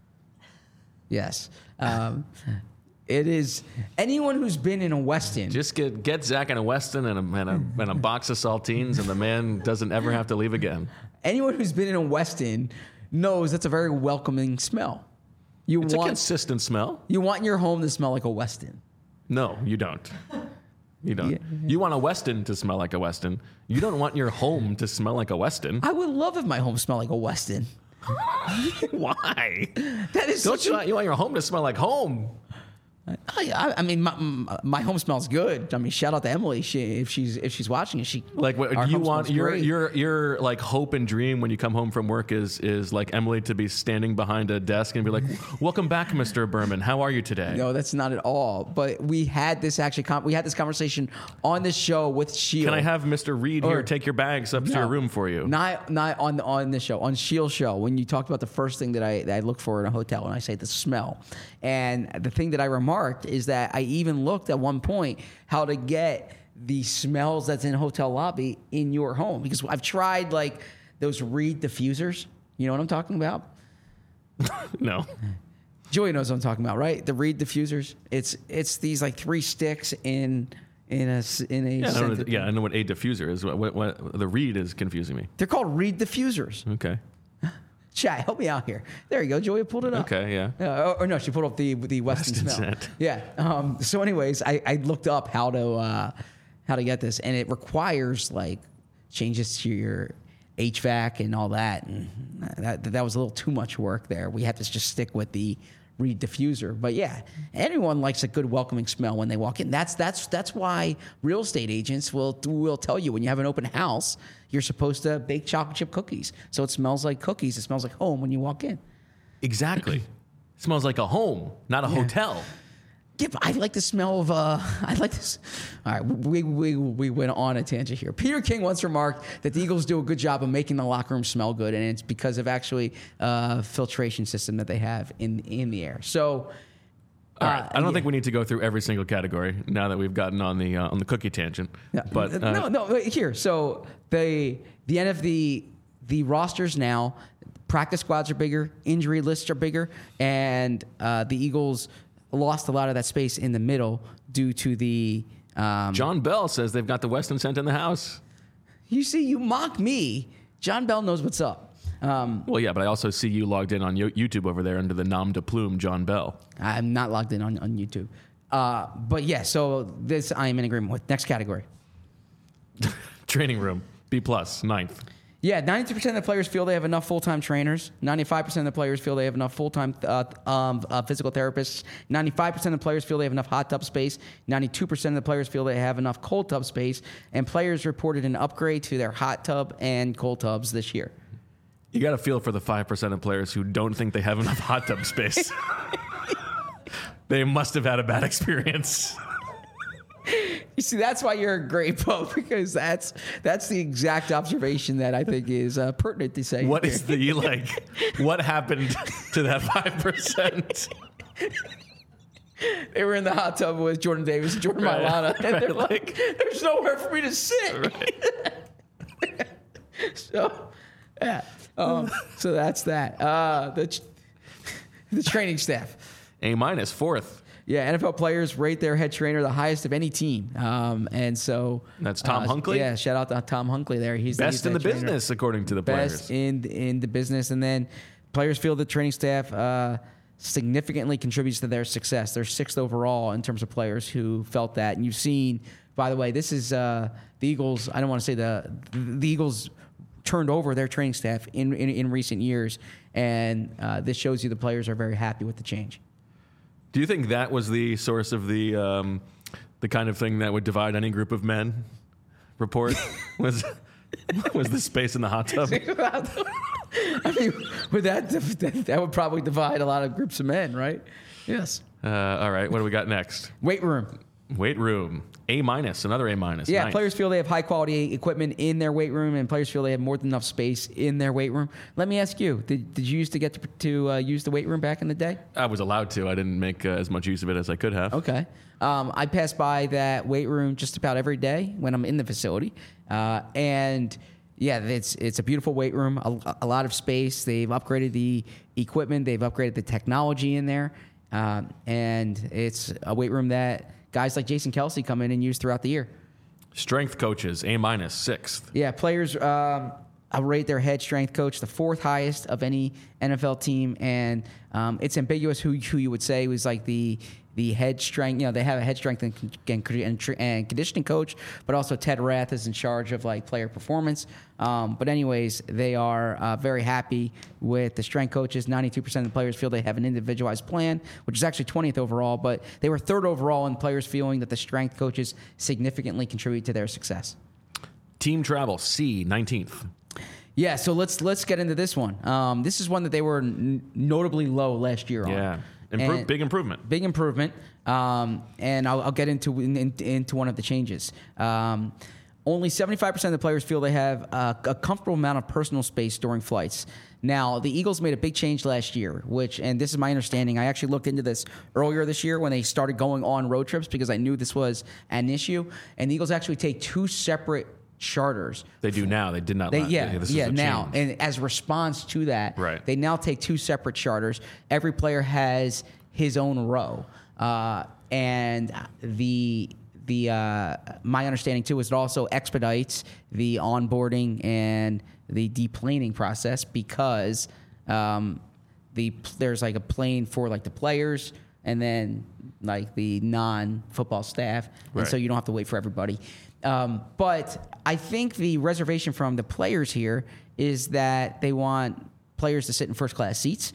Yes. Um, it is. Anyone who's been in a Westin. Just get get Zach in a Westin and a, and a and a box of saltines, and the man doesn't ever have to leave again. Anyone who's been in a Westin knows that's a very welcoming smell. You It's want a consistent smell. you want your home to smell like a Westin. No, you don't. You don't. Yeah. You want a Westin to smell like a Westin. You don't want your home to smell like a Westin. I would love if my home smelled like a Westin. Why? That is Don't such you a, want, you want your home to smell like home? I, I, I mean, my, my home smells good. I mean, shout out to Emily. She, if she's if she's watching, is she Like, what our do you home want smells your great. your your like hope and dream when you come home from work is is like Emily to be standing behind a desk and be like, "Welcome back, Mister Berman. How are you today?" No, that's not at all. But we had this actually. Com- we had this conversation on this show with Shield. Can I have Mister Reed Or- here take your bags up to your room for you? Not not on the, on this show, on Shield show, when you talked about the first thing that I that I look for in a hotel, and I say the smell. And the thing that I remarked is that I even looked at one point how to get the smells that's in a hotel lobby in your home, because I've tried like those Reed diffusers. You know what I'm talking about? No. Joey knows what I'm talking about, right? The Reed diffusers. It's it's these like three sticks in in a s- in a. Yeah, I, know, scented- what- yeah, I know what a diffuser is. What, what, what the Reed is confusing me. They're called Reed diffusers. Okay. Chat, help me out here. There you go. Joey pulled it up. Okay, yeah. Uh, or, or no, she pulled up the the Weston, Weston smell. scent. Yeah. Um, so, anyways, I, I looked up how to uh, how to get this, and it requires like changes to your H V A C and all that, and that that was a little too much work there. We had to just stick with the Reed diffuser. But yeah, everyone likes a good welcoming smell when they walk in. That's that's that's why real estate agents will will tell you when you have an open house, you're supposed to bake chocolate chip cookies, so it smells like cookies. It smells like home when you walk in. Exactly. It smells like a home, not a hotel. Yeah, but I like the smell of. Uh, I like this. All right, we, we we went on a tangent here. Peter King once remarked that the Eagles do a good job of making the locker room smell good, and it's because of actually uh, filtration system that they have in in the air. So, All right. uh, I don't yeah. think we need to go through every single category now that we've gotten on the uh, on the cookie tangent. Yeah. But uh, no, no. Wait, here, so they the N F L the the rosters now, practice squads are bigger, injury lists are bigger, and uh, the Eagles lost a lot of that space in the middle due to the. Um, John Bell says they've got the Weston scent in the house. You see, you mock me. John Bell knows what's up. Um, Well, yeah, but I also see you logged in on Yo- YouTube over there under the nom de plume, John Bell. I'm not logged in on, on YouTube. Uh, but yeah, so this I am in agreement with. Next category. Training room, B plus, ninth. Yeah, ninety percent of the players feel they have enough full-time trainers. ninety-five percent of the players feel they have enough full-time uh, um, uh, physical therapists. ninety-five percent of the players feel they have enough hot tub space. ninety-two percent of the players feel they have enough cold tub space. And players reported an upgrade to their hot tub and cold tubs this year. You got to feel for the five percent of players who don't think they have enough hot tub space. They must have had a bad experience. You see, that's why you're a great Pope, because that's that's the exact observation that I think is uh, pertinent to say. What here. is the, like, what happened to that five percent? They were in the hot tub with Jordan Davis and Jordan Right, Mailata, and right, they're like, "There's nowhere for me to sit." Right. So, yeah. Um, so that's that. Uh, the the training staff. A minus, fourth. Yeah, N F L players rate their head trainer the highest of any team. Um, and so That's Tom uh, Hunkley? Yeah, shout out to Tom Hunkley there. He's Best the, in he's the head trainer. business, according to the Best players. in in the business, and then players feel the training staff uh, significantly contributes to their success. They're sixth overall in terms of players who felt that. And you've seen, by the way, this is uh, the Eagles. I don't want to say the the Eagles turned over their training staff in in, in recent years, and uh, this shows you the players are very happy with the change. Do you think that was the source of the um, the kind of thing that would divide any group of men? Report was was the space in the hot tub. I mean, with that, that would probably divide a lot of groups of men, right? Yes. Uh, all right, what do we got next? Weight room. Weight room, A minus, another A minus. Yeah, Nice. players feel they have high quality equipment in their weight room, and players feel they have more than enough space in their weight room. Let me ask you: Did, did you used to get to, to uh, use the weight room back in the day? I was allowed to. I didn't make uh, as much use of it as I could have. Okay. Um, I pass by that weight room just about every day when I'm in the facility, uh, and yeah, it's it's a beautiful weight room. A, a lot of space. They've upgraded the equipment. They've upgraded the technology in there, uh, and it's a weight room that guys like Jason Kelsey come in and use throughout the year. Strength coaches, A minus, sixth. Yeah, players um, I'll rate their head strength coach the fourth highest of any N F L team, and um, it's ambiguous who who you would say was like the the head strength. You know, they have a head strength and, and, and, and conditioning coach, but also Ted Rath is in charge of like player performance. Um, but anyways, they are uh, very happy with the strength coaches. ninety-two percent of the players feel they have an individualized plan, which is actually twentieth overall, but they were third overall in players feeling that the strength coaches significantly contribute to their success. Team travel, C, nineteenth. Yeah, so let's let's get into this one. Um, this is one that they were n- notably low last year on. Yeah, Impro- And- big improvement. Big improvement, um, and I'll, I'll get into in, in, into one of the changes. Um, only seventy-five percent of the players feel they have a, a comfortable amount of personal space during flights. Now, the Eagles made a big change last year, which, and this is my understanding, I actually looked into this earlier this year when they started going on road trips because I knew this was an issue, and the Eagles actually take two separate charters. They do now. They did not. They, last- yeah, this is yeah. a Now, change. and as a response to that, Right. they now take two separate charters. Every player has his own row, uh, and the the uh, my understanding too is it also expedites the onboarding and the deplaning process because um, the there's like a plane for like the players and then like the non-football staff, and so Right. you don't have to wait for everybody. Um, but I think the reservation from the players here is that they want players to sit in first class seats,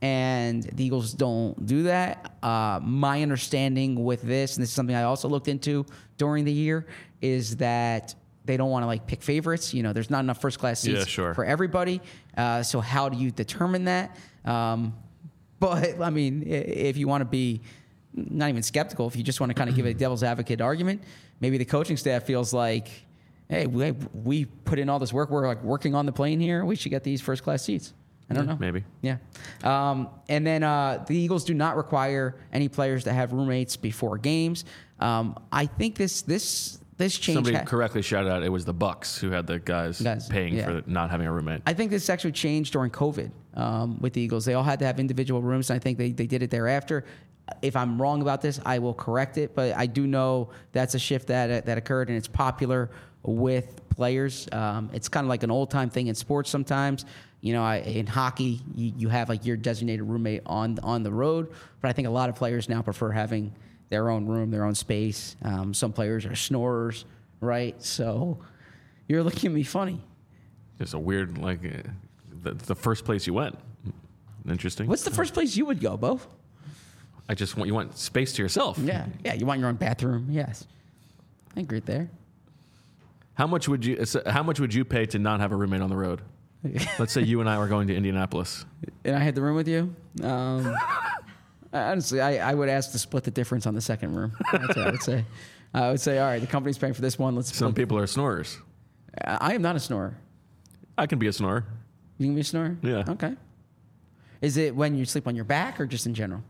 and the Eagles don't do that. Uh, my understanding with this, and this is something I also looked into during the year, is that they don't want to like pick favorites. You know, there's not enough first class seats Yeah, sure. for everybody. Uh, so how do you determine that? Um, but I mean, i- if you want to be not even skeptical, if you just want to kind of give a devil's advocate argument, maybe the coaching staff feels like, hey, we, we put in all this work. We're like working on the plane here. We should get these first class seats. I don't Yeah, know. maybe. Yeah. Um, and then uh, the Eagles do not require any players to have roommates before games. Um, I think this this this change. Somebody ha- correctly shouted out it was the Bucks who had the guys, Guys, paying yeah. for not having a roommate. I think this actually changed during COVID um, with the Eagles. They all had to have individual rooms, and I think they, they did it thereafter. If I'm wrong about this, I will correct it, but I do know that's a shift that that occurred, and it's popular with players. Um, it's kind of like an old-time thing in sports sometimes. You know, I, in hockey, you, you have like your designated roommate on on the road, but I think a lot of players now prefer having their own room, their own space. Um, some players are snorers, right? So you're looking at me funny. It's a weird, like, uh, the, the first place you went. Interesting. What's the first place you would go, Bo? I just want you want space to yourself. Yeah, yeah. You want your own bathroom? Yes, I agree there. How much would you? so How much would you pay to not have a roommate on the road? Let's say you and I were going to Indianapolis. And I had the room with you. Um, honestly, I, I would ask to split the difference on the second room. That's what I would say. I would say, all right, the company's paying for this one. Let's. Some split. people are snorers. I am not a snorer. I can be a snorer. You can be a snorer. Yeah. Okay. Is it when you sleep on your back or just in general?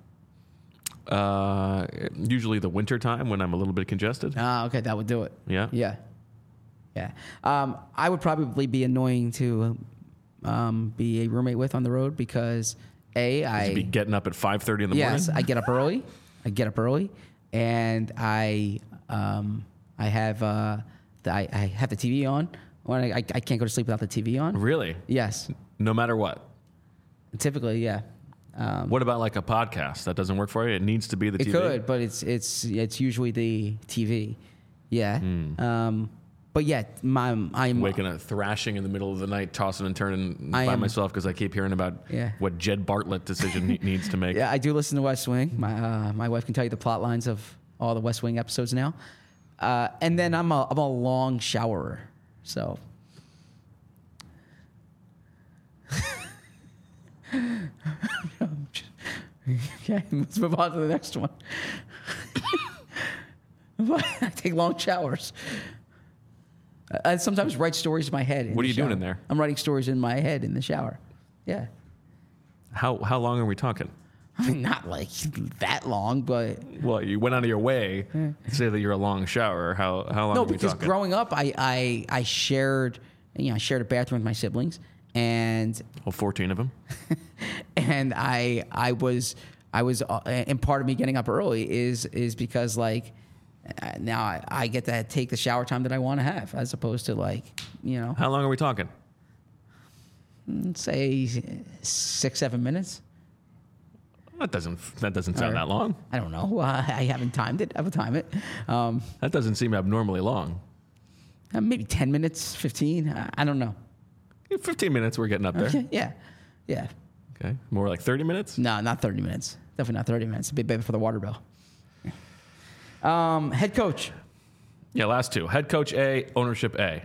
Uh, usually the winter time when I'm a little bit congested. Ah, okay, that would do it. Yeah. Yeah. Yeah. Um, I would probably be annoying to um, be a roommate with on the road because A, I You'd be getting up at five thirty in the yes, morning. I get up early. I get up early, and I um, I have uh, the, I, I have the T V on. When I, I I can't go to sleep without the T V on. Really? Yes, No matter what. typically, yeah. Um, What about like a podcast? That doesn't work for you? It needs to be the it T V? could, but it's it's it's usually the T V. Yeah. Hmm. Um, but yeah, my I'm Waking up, thrashing in the middle of the night, tossing and turning I by am- myself because I keep hearing about Yeah. what Jed Bartlett decision he needs to make. Yeah, I do listen to West Wing. My uh, my wife can tell you the plot lines of all the West Wing episodes now. Uh, and then I'm a I'm a long showerer, so. Okay, let's move on to the next one. I take long showers. I sometimes write stories in my head. in What the are you doing shower. in there? I'm writing stories in my head in the shower. Yeah. How how long are we talking? I mean, not like that long, but Well, you went out of your way to say that you're a long shower. How how long no, are we because talking? growing up, I, I I shared, you know, I shared a bathroom with my siblings, and Well, fourteen of them. and I I was I was uh, and part of me getting up early is is because like uh, now I, I get to take the shower time that I want to have as opposed to like you know How long are we talking? say six seven minutes. That doesn't that doesn't sound Or- that long. I don't know. Uh, I haven't timed it. I will time it. Um, That doesn't seem abnormally long. uh, maybe ten minutes, fifteen. I, I don't know. Yeah, fifteen minutes, we're getting up there. Okay, yeah, yeah. Okay, more like thirty minutes. No, not thirty minutes. Definitely not thirty minutes. A bit better for the water bill. Um, head coach. Yeah, last two. Head coach A, ownership A.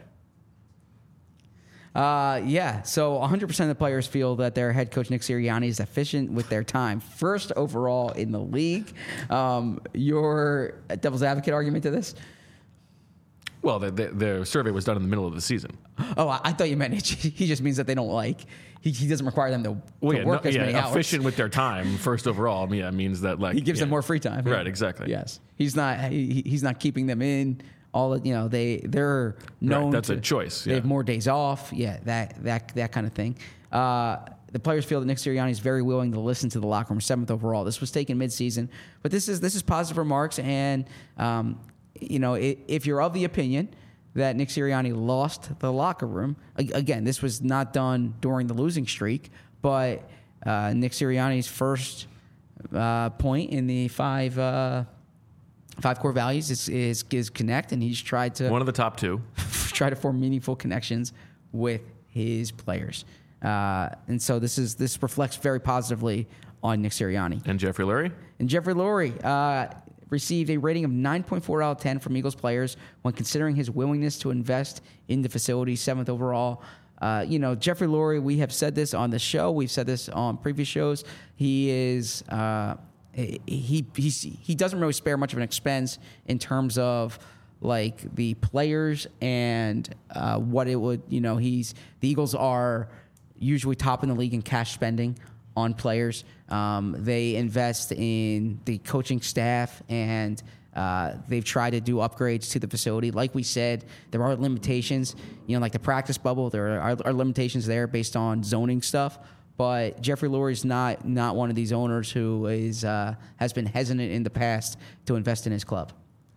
Uh, yeah, so one hundred percent of the players feel that their head coach, Nick Sirianni, is efficient with their time. First overall in the league. Um, your devil's advocate argument to this? Well, the, the, the survey was done in the middle of the season. Oh, I, I thought you meant it. He just means that they don't like, he, he doesn't require them to, to Well, yeah, work no- as yeah, many hours. efficient with their time. First overall, yeah, means that like He gives yeah. them more free time. Right, exactly. Yes. He's not, he, he's not keeping them in. All of- you know, they they're known. that's to, a choice, They yeah. have more days off. Yeah, that that that kind of thing. Uh, the players feel that Nick Sirianni is very willing to listen to the locker room. Seventh overall. This was taken midseason, but this is this is positive remarks. And um, you know, i if you're of the opinion that Nick Sirianni lost the locker room, a- again, this was not done during the losing streak, but uh, Nick Sirianni's first uh, point in the five. Uh, Five core values is, is is connect, and he's tried to One of the top two. try to form meaningful connections with his players, uh, and so this is this reflects very positively on Nick Sirianni. And Jeffrey Lurie? And Jeffrey Lurie uh, received a rating of nine point four out of ten from Eagles players when considering his willingness to invest in the facility, seventh overall. Uh, you know, Jeffrey Lurie, we have said this on the show. We've said this on previous shows. He is uh, he he's, he doesn't really spare much of an expense in terms of like the players and uh, what it would. You know, he's the Eagles are usually top in the league in cash spending on players. Um, they invest in the coaching staff, and uh, they've tried to do upgrades to the facility. Like we said, there are limitations. You know, like the practice bubble, there are, are limitations there based on zoning stuff. But Jeffrey Lurie is not not one of these owners who is uh, has been hesitant in the past to invest in his club.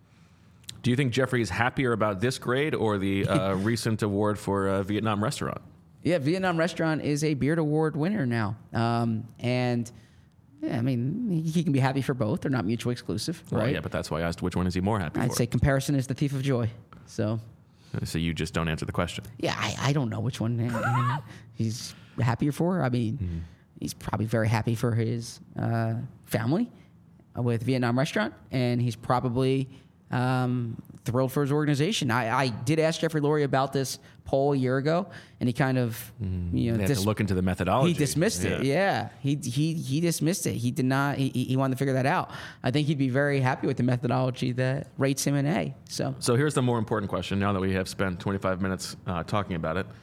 Do you think Jeffrey is happier about this grade or the uh, recent award for uh, Vietnam Restaurant? Yeah, Vietnam Restaurant is a Beard Award winner now, um, and yeah, I mean he can be happy for both. They're not mutually exclusive, Well, right? yeah, but that's why I asked which one is he more happy I'd for. say comparison is the thief of joy. So So you just don't answer the question. yeah, I, I don't know which one uh, he's happier for. I mean, Mm-hmm. he's probably very happy for his uh, family with Vietnam Restaurant, and he's probably um, thrilled for his organization. I, I did ask Jeffrey Lurie about this poll a year ago, and he kind of, you know, They have dis- to look into the methodology. he dismissed it. Yeah, he he he dismissed it. He did not. He, he wanted to figure that out. I think he'd be very happy with the methodology that rates him an A. So So here's the more important question. Now that we have spent twenty-five minutes uh, talking about it,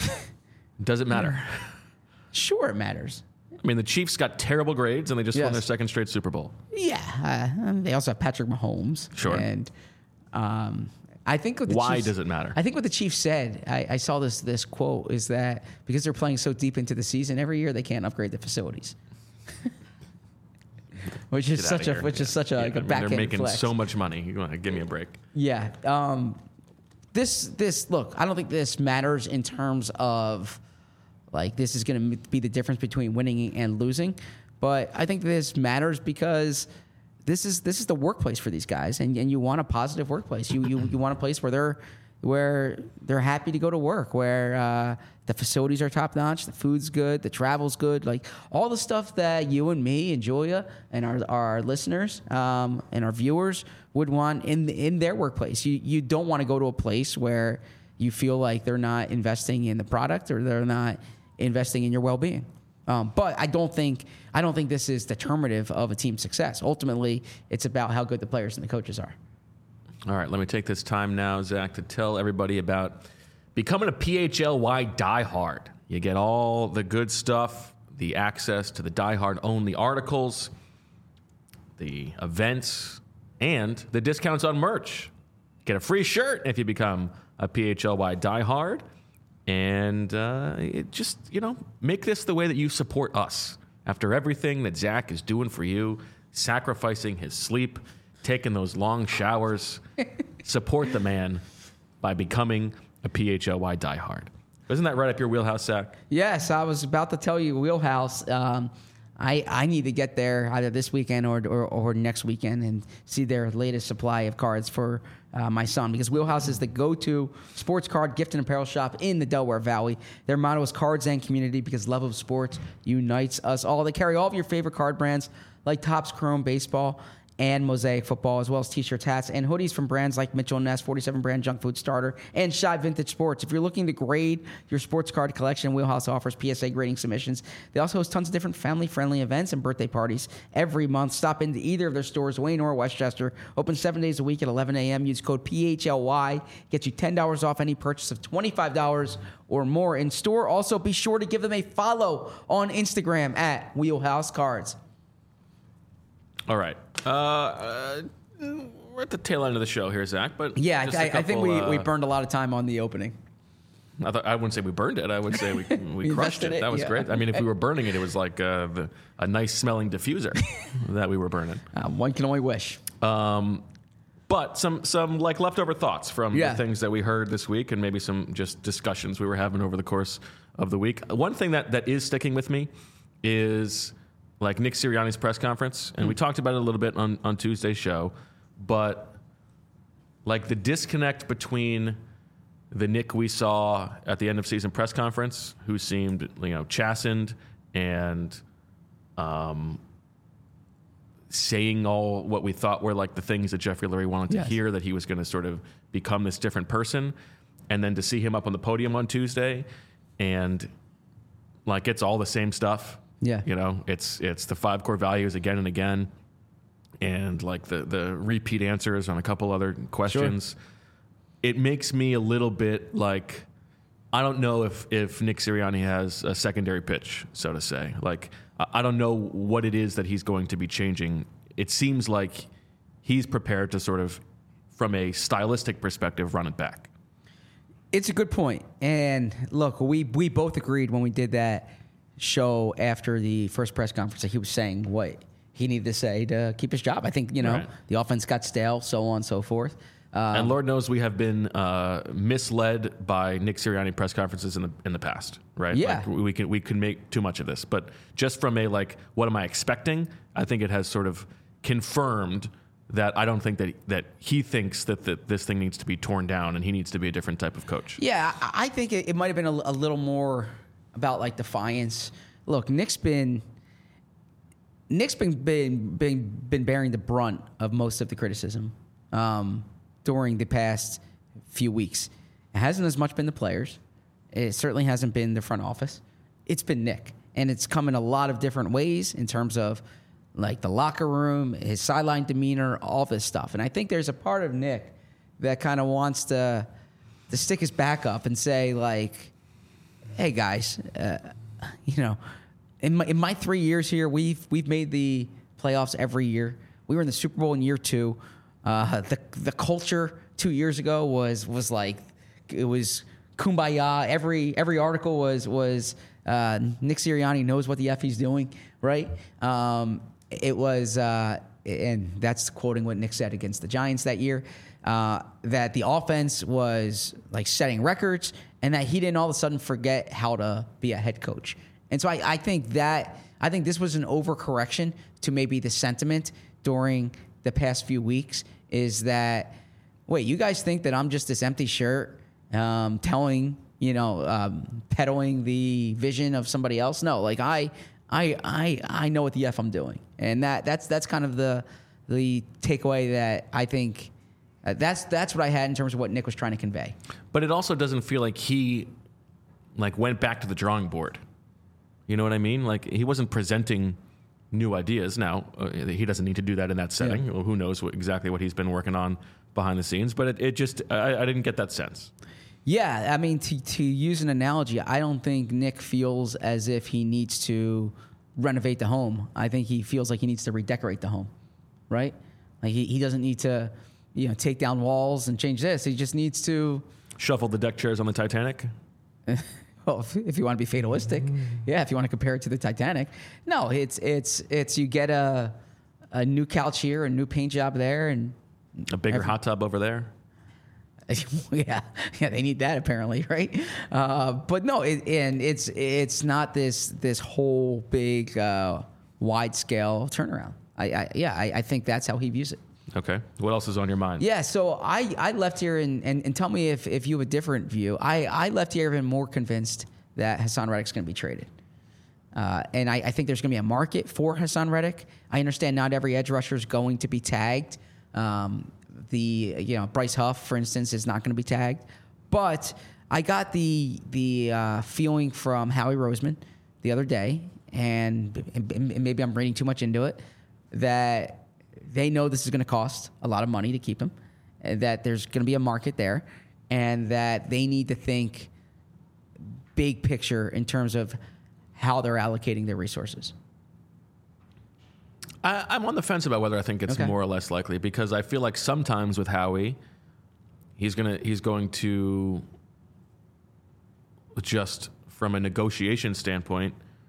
does it matter? sure, it matters. I mean, the Chiefs got terrible grades and they just won Yes. their second straight Super Bowl. Yeah, uh, um, they also have Patrick Mahomes. Sure. And um, I think what the Why Chiefs, does it matter? I think what the Chiefs said. I, I saw this this quote is that because they're playing so deep into the season every year, they can't upgrade the facilities. which is Get such outta a here. which Yeah. is such a, Yeah, like a I mean, backhand they're making flex. so much money. You want to give me a break? Yeah. Um, this this look, I don't think this matters in terms of like this is going to be the difference between winning and losing, but I think this matters because this is this is the workplace for these guys, and, and you want a positive workplace. You you you want a place where they're where they're happy to go to work, where uh, the facilities are top notch, the food's good, the travel's good, like all the stuff that you and me and Julia and our our listeners um, and our viewers would want in in their workplace. You you don't want to go to a place where you feel like they're not investing in the product or they're not investing in your well-being. Um, but I don't think I don't think this is determinative of a team's success. Ultimately, it's about how good the players and the coaches are. All right, let me take this time now, Zach, to tell everybody about becoming a P H L Y diehard. You get all the good stuff, the access to the diehard only articles, the events, and the discounts on merch. Get a free shirt if you become a P H L Y diehard. And uh, it just, you know, make this the way that you support us. After everything that Zach is doing for you, sacrificing his sleep, taking those long showers, support the man by becoming a P H L Y diehard. Isn't that right up your wheelhouse, Zach? Yes, I was about to tell you, Wheelhouse. Um, I I need to get there either this weekend or, or or next weekend and see their latest supply of cards for uh, my son, because Wheelhouse is the go-to sports card gift and apparel shop in the Delaware Valley. Their motto is cards and community, because love of sports unites us all. They carry all of your favorite card brands like Topps Chrome Baseball and Mosaic Football, as well as t-shirts, hats, and hoodies from brands like Mitchell and Ness, forty-seven brand Junk Food Starter, and Shy Vintage Sports. If you're looking to grade your sports card collection, Wheelhouse offers P S A grading submissions. They also host tons of different family-friendly events and birthday parties every month. Stop into either of their stores, Wayne or Westchester. Open seven days a week at eleven a.m. Use code P H L Y. Get you ten dollars off any purchase of twenty-five dollars or more in store. Also, be sure to give them a follow on Instagram at Wheelhouse Cards. All right. Uh, uh, we're at the tail end of the show here, Zach. But Yeah, just I, a couple, I think we, uh, we burned a lot of time on the opening. I, thought, I wouldn't say we burned it. I would say we we We crushed invested it. it, That was yeah. great. I mean, if we were burning it, it was like uh, the, a nice smelling diffuser that we were burning. Uh, one can only wish. Um, but some some like leftover thoughts from Yeah. the things that we heard this week, and maybe some just discussions we were having over the course of the week. One thing that, that is sticking with me is like Nick Sirianni's press conference, and we talked about it a little bit on, on Tuesday's show, but like the disconnect between the Nick we saw at the end of season press conference, who seemed, you know, chastened and um, saying all what we thought were like the things that Jeffrey Lurie wanted to Yes. hear, that he was going to sort of become this different person, and then to see him up on the podium on Tuesday, and like it's all the same stuff. Yeah. You know, it's it's the five core values again and again, and like the the repeat answers on a couple other questions. It makes me a little bit like, I don't know if if Nick Sirianni has a secondary pitch, so to say. Like, I I don't know what it is that he's going to be changing. It seems like he's prepared to sort of, from a stylistic perspective, run it back. It's a good point. And look, we, we both agreed when we did that show after the first press conference that he was saying what he needed to say to keep his job. I think, you know, Right. the offense got stale, so on and so forth. Um, And Lord knows we have been uh, misled by Nick Sirianni press conferences in the in the past, right? Yeah. Like we can we can make too much of this, but just from a like, what am I expecting? I think it has sort of confirmed that I don't think that that he thinks that, that this thing needs to be torn down and he needs to be a different type of coach. Yeah, I I think it, it might have been a, a little more about like defiance. Look, Nick's been Nick's been been been, been bearing the brunt of most of the criticism um, during the past few weeks. It hasn't as much been the players. It certainly hasn't been the front office. It's been Nick, and it's come in a lot of different ways in terms of like the locker room, his sideline demeanor, all this stuff. And I think there's a part of Nick that kind of wants to to stick his back up and say like, hey guys, uh, you know, in my in my three years here, we've we've made the playoffs every year. We were in the Super Bowl in year two. Uh, the the culture two years ago was was like it was kumbaya. Every every article was was uh, Nick Sirianni knows what the F he's doing, right? Um, it was, uh, and that's quoting what Nick said against the Giants that year, uh, that the offense was like setting records and that he didn't all of a sudden forget how to be a head coach. And so I, I think that, I think this was an overcorrection to maybe the sentiment during the past few weeks is that, wait, you guys think that I'm just this empty shirt um, telling, you know, um, peddling the vision of somebody else? No, like I, I, I, I know what the F I'm doing. And that, that's, that's kind of the, the takeaway that I think uh, that's, that's what I had in terms of what Nick was trying to convey. But it also doesn't feel like he like went back to the drawing board. You know what I mean? Like he wasn't presenting new ideas. Now, uh, he doesn't need to do that in that setting. Yeah. Well, who knows what, exactly what he's been working on behind the scenes. But it, it just, I, I didn't get that sense. Yeah, I mean, to, to use an analogy, I don't think Nick feels as if he needs to renovate the home. I think he feels like he needs to redecorate the home, right? Like he, he doesn't need to, you know, take down walls and change this. He just needs to... Shuffle the deck chairs on the Titanic? Well, if, if you want to be fatalistic, yeah. If you want to compare it to the Titanic, no, it's it's it's you get a a new couch here, a new paint job there, and A bigger every, hot tub over there? yeah, yeah, they need that apparently, right? Uh, but no, it, and it's it's not this this whole big uh, wide scale turnaround. I, I yeah, I, I think that's how he views it. Okay. What else is on your mind? Yeah, so I, I left here, and, and, and tell me if, if you have a different view. I, I left here even more convinced that Hassan Reddick's going to be traded. Uh, and I, I think there's going to be a market for Hassan Reddick. I understand not every edge rusher is going to be tagged. Um, the you know Bryce Huff, for instance, is not going to be tagged. But I got the the uh, feeling from Howie Roseman the other day, and, and maybe I'm reading too much into it, that they know this is going to cost a lot of money to keep him, that there's going to be a market there, and that they need to think big picture in terms of how they're allocating their resources. I, I'm on the fence about whether I think it's Okay. more or less likely, because I feel like sometimes with Howie, he's gonna he's going to just from a negotiation standpoint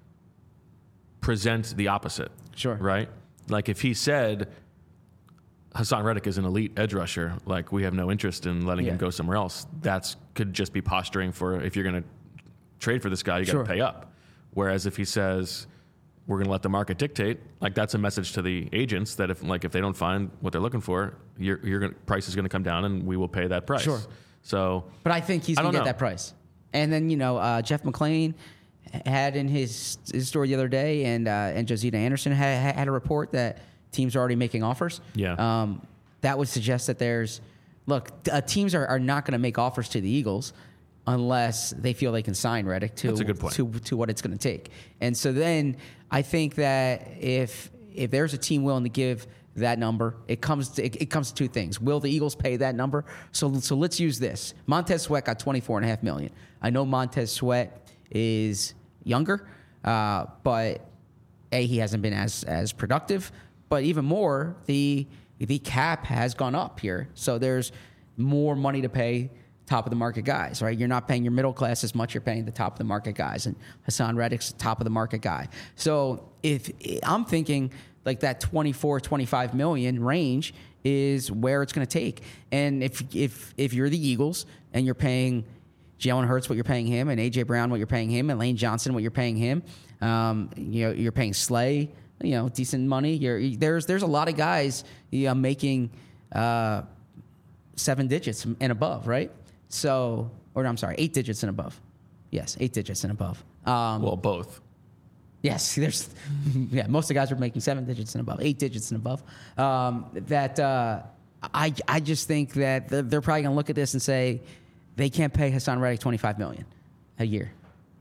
present the opposite. Sure. Right? Like if he said Hassan Reddick is an elite edge rusher, like we have no interest in letting Yeah. him go somewhere else, that's could just be posturing for if you're going to trade for this guy, you got to Sure. pay up. Whereas if he says we're going to let the market dictate, like that's a message to the agents that if like if they don't find what they're looking for, your your gonna, price is going to come down and we will pay that price. Sure. So, But I think he's I going to don't get know. that price. And then, you know, uh, Jeff McClain had in his, his story the other day, and uh, and Josita Anderson had, had a report that teams are already making offers. Yeah. Um, that would suggest that there's, look, uh, teams are, are not going to make offers to the Eagles unless they feel they can sign Reddick to That's a good point. to to what it's going to take. And so then I think that if if there's a team willing to give that number, it comes to, it, it comes to two things. Will the Eagles pay that number? So so let's use this. Montez Sweat got twenty-four and a half million. I know Montez Sweat is younger, uh, but A, he hasn't been as as productive, but even more, the the cap has gone up here. So there's more money to pay top of the market guys, right? You're not paying your middle class as much, you're paying the top of the market guys. And Hassan Reddick's the top of the market guy. So if I'm thinking like that twenty-four, twenty-five million range is where it's going to take. And if if if you're the Eagles and you're paying Jalen Hurts what you're paying him, and A J Brown what you're paying him, and Lane Johnson what you're paying him, um, you know, you're paying Slay, you know, decent money. You're there's there's a lot of guys you know, making uh, seven digits and above, right? So, or no, I'm sorry, eight digits and above. Yes, eight digits and above. Um, well, both. Yes, there's, yeah, most of the guys are making seven digits and above, eight digits and above. Um, that uh, I I just think that they're probably going to look at this and say they can't pay Hassan Reddick twenty-five million dollars a year.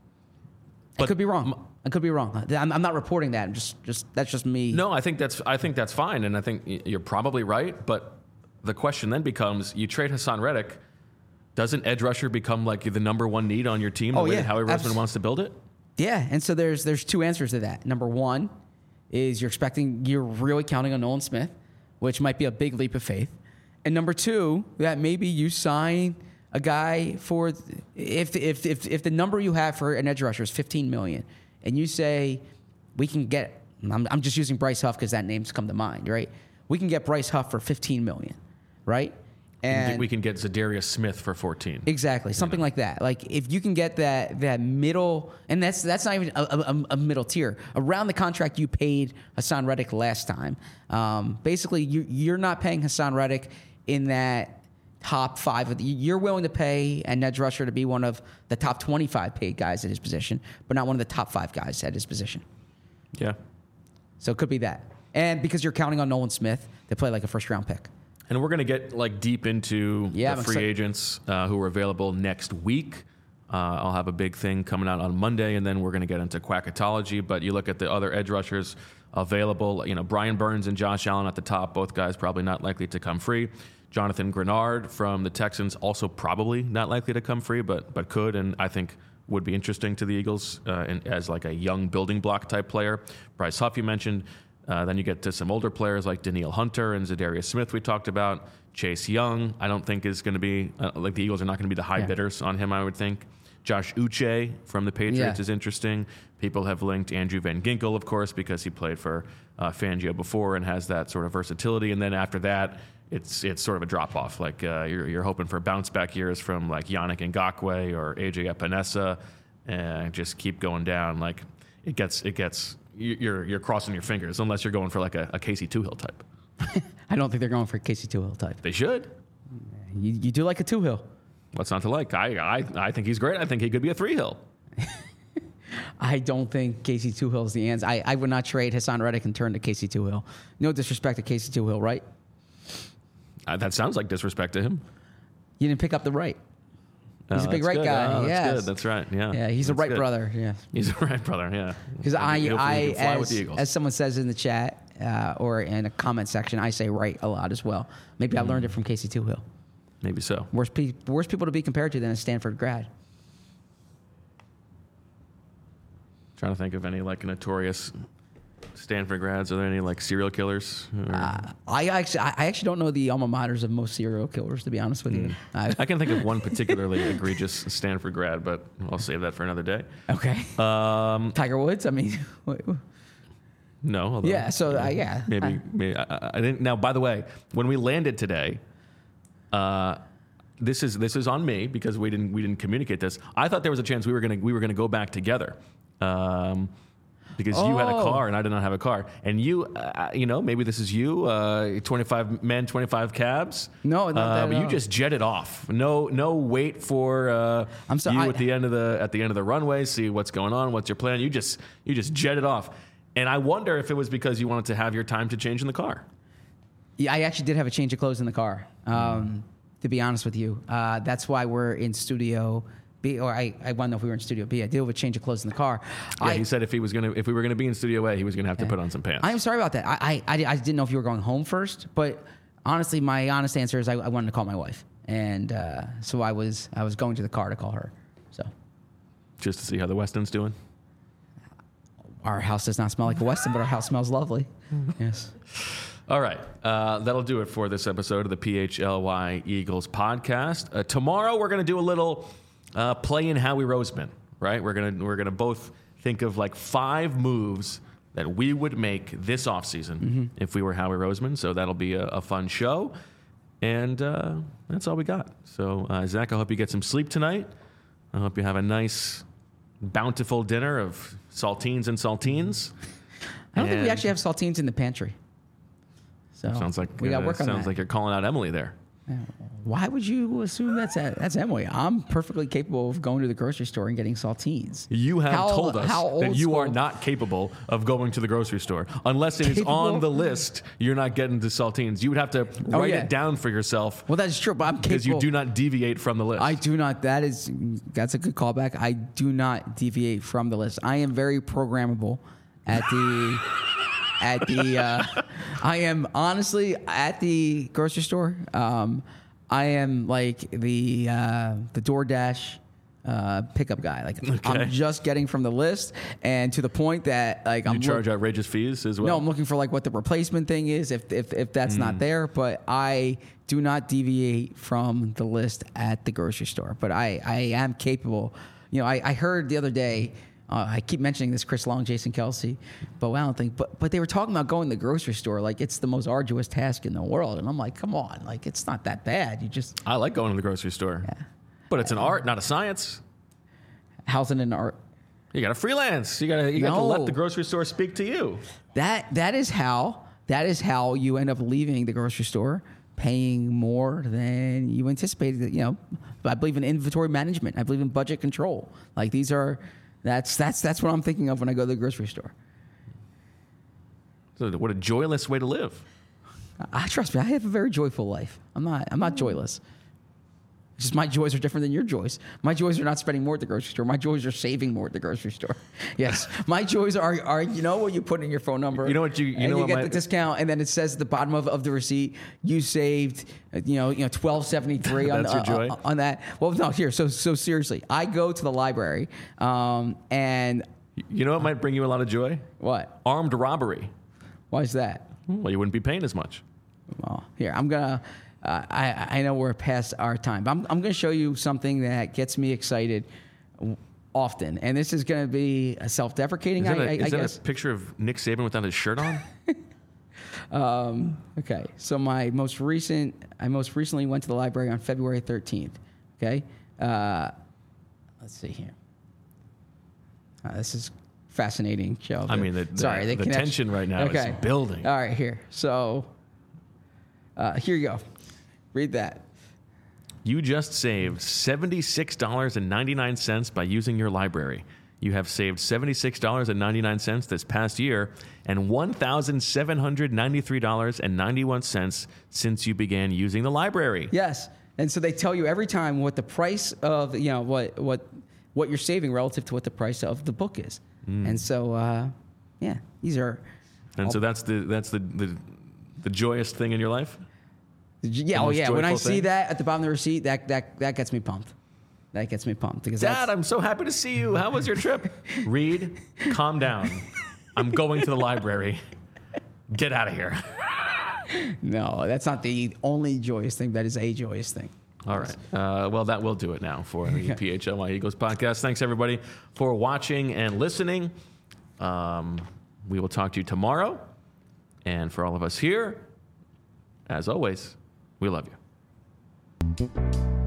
I But could be wrong. I could be wrong. I'm, I'm not reporting that. I'm just just that's just me. No, I think that's I think that's fine, and I think y- you're probably right. But the question then becomes: you trade Hassan Reddick, doesn't edge rusher become like the number one need on your team? The Oh, way yeah, that Howie Roseman abs- wants to build it. Yeah, and so there's there's two answers to that. Number one is you're expecting you're really counting on Nolan Smith, which might be a big leap of faith. And number two, that maybe you sign a guy for if if if if the number you have for an edge rusher is fifteen million, and you say we can get I'm, I'm just using Bryce Huff because that name's come to mind, right? We can get Bryce Huff for fifteen million dollars, right? And we can get Zadarius Smith for fourteen. Exactly, something like that. Like if you can get that that middle, and that's that's not even a, a, a middle tier around the contract you paid Hassan Reddick last time. Um, basically, you, you're not paying Hassan Reddick in that top five. Of the, you're willing to pay an edge rusher to be one of the top twenty-five paid guys at his position, but not one of the top five guys at his position. Yeah. So it could be that, and because you're counting on Nolan Smith to play like a first round pick. And we're going to get like deep into Yeah, the I'm free excited. agents uh, who are available next week. Uh, I'll have a big thing coming out on Monday, and then we're going to get into quackatology. But you look at the other edge rushers available, you know, Brian Burns and Josh Allen at the top, both guys probably not likely to come free. Jonathan Grenard from the Texans also probably not likely to come free, but but could, and I think would be interesting to the Eagles uh, in, as like a young building block type player. Bryce Huff you mentioned. Uh, then you get to some older players like Danielle Hunter and Zadarius Smith we talked about. Chase Young, I don't think is going to be, uh, like the Eagles are not going to be the high Yeah. bidders on him, I would think. Josh Uche from the Patriots Yeah. is interesting. People have linked Andrew Van Ginkel, of course, because he played for uh, Fangio before and has that sort of versatility. And then after that, it's it's sort of a drop-off. Like uh, you're, you're hoping for bounce-back years from like Yannick Ngakoue or A J Epinesa, and just keep going down. Like it gets it gets... You're you're crossing your fingers unless you're going for like a, a Casey Toohill type. I don't think they're going for a Casey Toohill type. They should. You, you do like a Toohill. What's not to like? I, I I think he's great. I think he could be a three hill. I don't think Casey Toohill is the answer. I, I would not trade Hassan Reddick and turn to Casey Toohill. No disrespect to Casey Toohill, right? Uh, that sounds like disrespect to him. You didn't pick up the right. He's Oh, a big that's right good. guy. Oh, that's yes. good. That's right. Yeah. Yeah, he's a That's right good. brother. Yeah. He's a right brother. Yeah. Because I, Hopefully I he can fly with as, the Eagles. as someone says in the chat uh, or in a comment section, I say right a lot as well. Maybe I learned it from Casey Toohill. Maybe so. Worst, pe- worst people to be compared to than a Stanford grad. Trying to think of any like notorious Stanford grads. Are there any like serial killers? Or- Uh, I actually, I I actually don't know the alma maters of most serial killers, to be honest with you. I, I can think of one particularly egregious Stanford grad, but I'll save that for another day. okay. Um, Tiger Woods. I mean, wait, no. Although, yeah. So uh, yeah. Maybe, I- maybe I, I didn't. Now, by the way, when we landed today, uh, this is this is on me because we didn't we didn't communicate this. I thought there was a chance we were gonna we were gonna go back together, um, because you had a Oh. car and I did not have a car, and you uh, you know maybe this is you, uh, twenty-five men, twenty-five cabs. No, not that uh, at but you all. just jetted off. No no wait for uh, I'm so- you I- at the end of the at the end of the runway. See what's going on. What's your plan? You just you just jetted off. And I wonder if it was because you wanted to have your time to change in the car. Yeah, I actually did have a change of clothes in the car. Um, to be honest with you, uh, that's why we're in studio B. Or I, I want to know if we were in studio B. I did have a change of clothes in the car. Yeah, I, he said if he was gonna, if we were gonna be in Studio A, he was gonna have to put on some pants. I am sorry about that. I, I, I, I didn't know if you were going home first, but honestly, my honest answer is I, I wanted to call my wife, and uh, so I was I was going to the car to call her. So Just to see how the Weston's doing. our house does not smell like a Weston, but our house smells lovely. Yes. All right, uh, that'll do it for this episode of the P H L Y Eagles podcast. Uh, tomorrow we're gonna do a little uh, play in Howie Roseman. Right, we're gonna we're gonna both think of like five moves that we would make this offseason Mm-hmm. if we were Howie Roseman. So that'll be a, a fun show, and uh, that's all we got. So uh, Zach, I hope you get some sleep tonight. I hope you have a nice, bountiful dinner of saltines and saltines. I don't think we And- actually have saltines in the pantry. So Sounds like we got uh, work on sounds that. like you're calling out Emily there. Why would you assume that's that's Emily? I'm perfectly capable of going to the grocery store and getting saltines. You have How- told us how that old you are school- not capable of going to the grocery store unless it is Capable? on the list. You're not getting to saltines. You would have to Oh, write yeah. it down for yourself Well, that's true, but I'm capable. because you do not deviate from the list. I do not. That is that's a good callback. I do not deviate from the list. I am very programmable at the at the. Uh, I am honestly at the grocery store. Um, I am like the uh, the DoorDash uh, pickup guy. Like Okay. I'm just getting from the list, and to the point that like you I'm charge look- outrageous fees as well. no, I'm looking for like what the replacement thing is if if if that's not there. But I do not deviate from the list at the grocery store. But I I am capable. You know, I, I heard the other day Uh, I keep mentioning this Chris Long, Jason Kelsey, but I don't think. But but they were talking about going to the grocery store like it's the most arduous task in the world, and I'm like, come on, like it's not that bad. You just I like going to the grocery store, Yeah. but it's an art, not a science. how's it an art? You got to freelance. You got to you got to No. let the grocery store speak to you. That that is how that is how you end up leaving the grocery store paying more than you anticipated. You know, I believe in inventory management. I believe in budget control. Like these are that's that's that's what I'm thinking of when I go to the grocery store. So what a joyless way to live. I trust me. I have a very joyful life. I'm not. I'm not joyless. It's just my joys are different than your joys. My joys are not spending more at the grocery store. My joys are saving more at the grocery store. Yes, my joys are are you know what you put in your phone number. You know what you- you and know you what get my- the discount, and then it says at the bottom of, of the receipt you saved. uh, You know, you know, twelve seventy three on That's the, your joy? on, on that. Well, no, here. So so seriously, I go to the library, um, and You know what might bring you a lot of joy? what? Armed robbery. Why is that? Well, you wouldn't be paying as much. Well, here I'm gonna. Uh, I I know we're past our time, but I'm I'm gonna show you something that gets me excited w- often, and this is gonna be a self-deprecating. Is that, I, a, I, is I that guess. a picture of Nick Saban without his shirt on? Um, okay, so my most recent, I most recently went to the library on February thirteenth. Okay, uh, let's see here. Uh, this is fascinating, Joe. I mean, the- the- sorry, the connection- tension right now is building. All right, here. So uh, here you go. Read that. You just saved seventy-six dollars and ninety-nine cents by using your library. You have saved seventy-six dollars and ninety-nine cents this past year and one thousand seven hundred ninety-three dollars and ninety-one cents since you began using the library. Yes, and so they tell you every time what the price of you know what what what you're saving relative to what the price of the book is, Mm. and so uh, yeah, these are And so that's the that's the, the the joyous thing in your life? yeah The oh most yeah. When I joyful see thing? that at the bottom of the receipt, that that that gets me pumped. That gets me pumped because Dad, that's, I'm so happy to see you. How was your trip? Reed, calm down. I'm going to the library. Get out of here. no, that's not the only joyous thing. That is a joyous thing. All right. Uh, well, that will do it now for the P H L Y Eagles podcast. Thanks, everybody, for watching and listening. Um, we will talk to you tomorrow. And for all of us here, as always, we love you.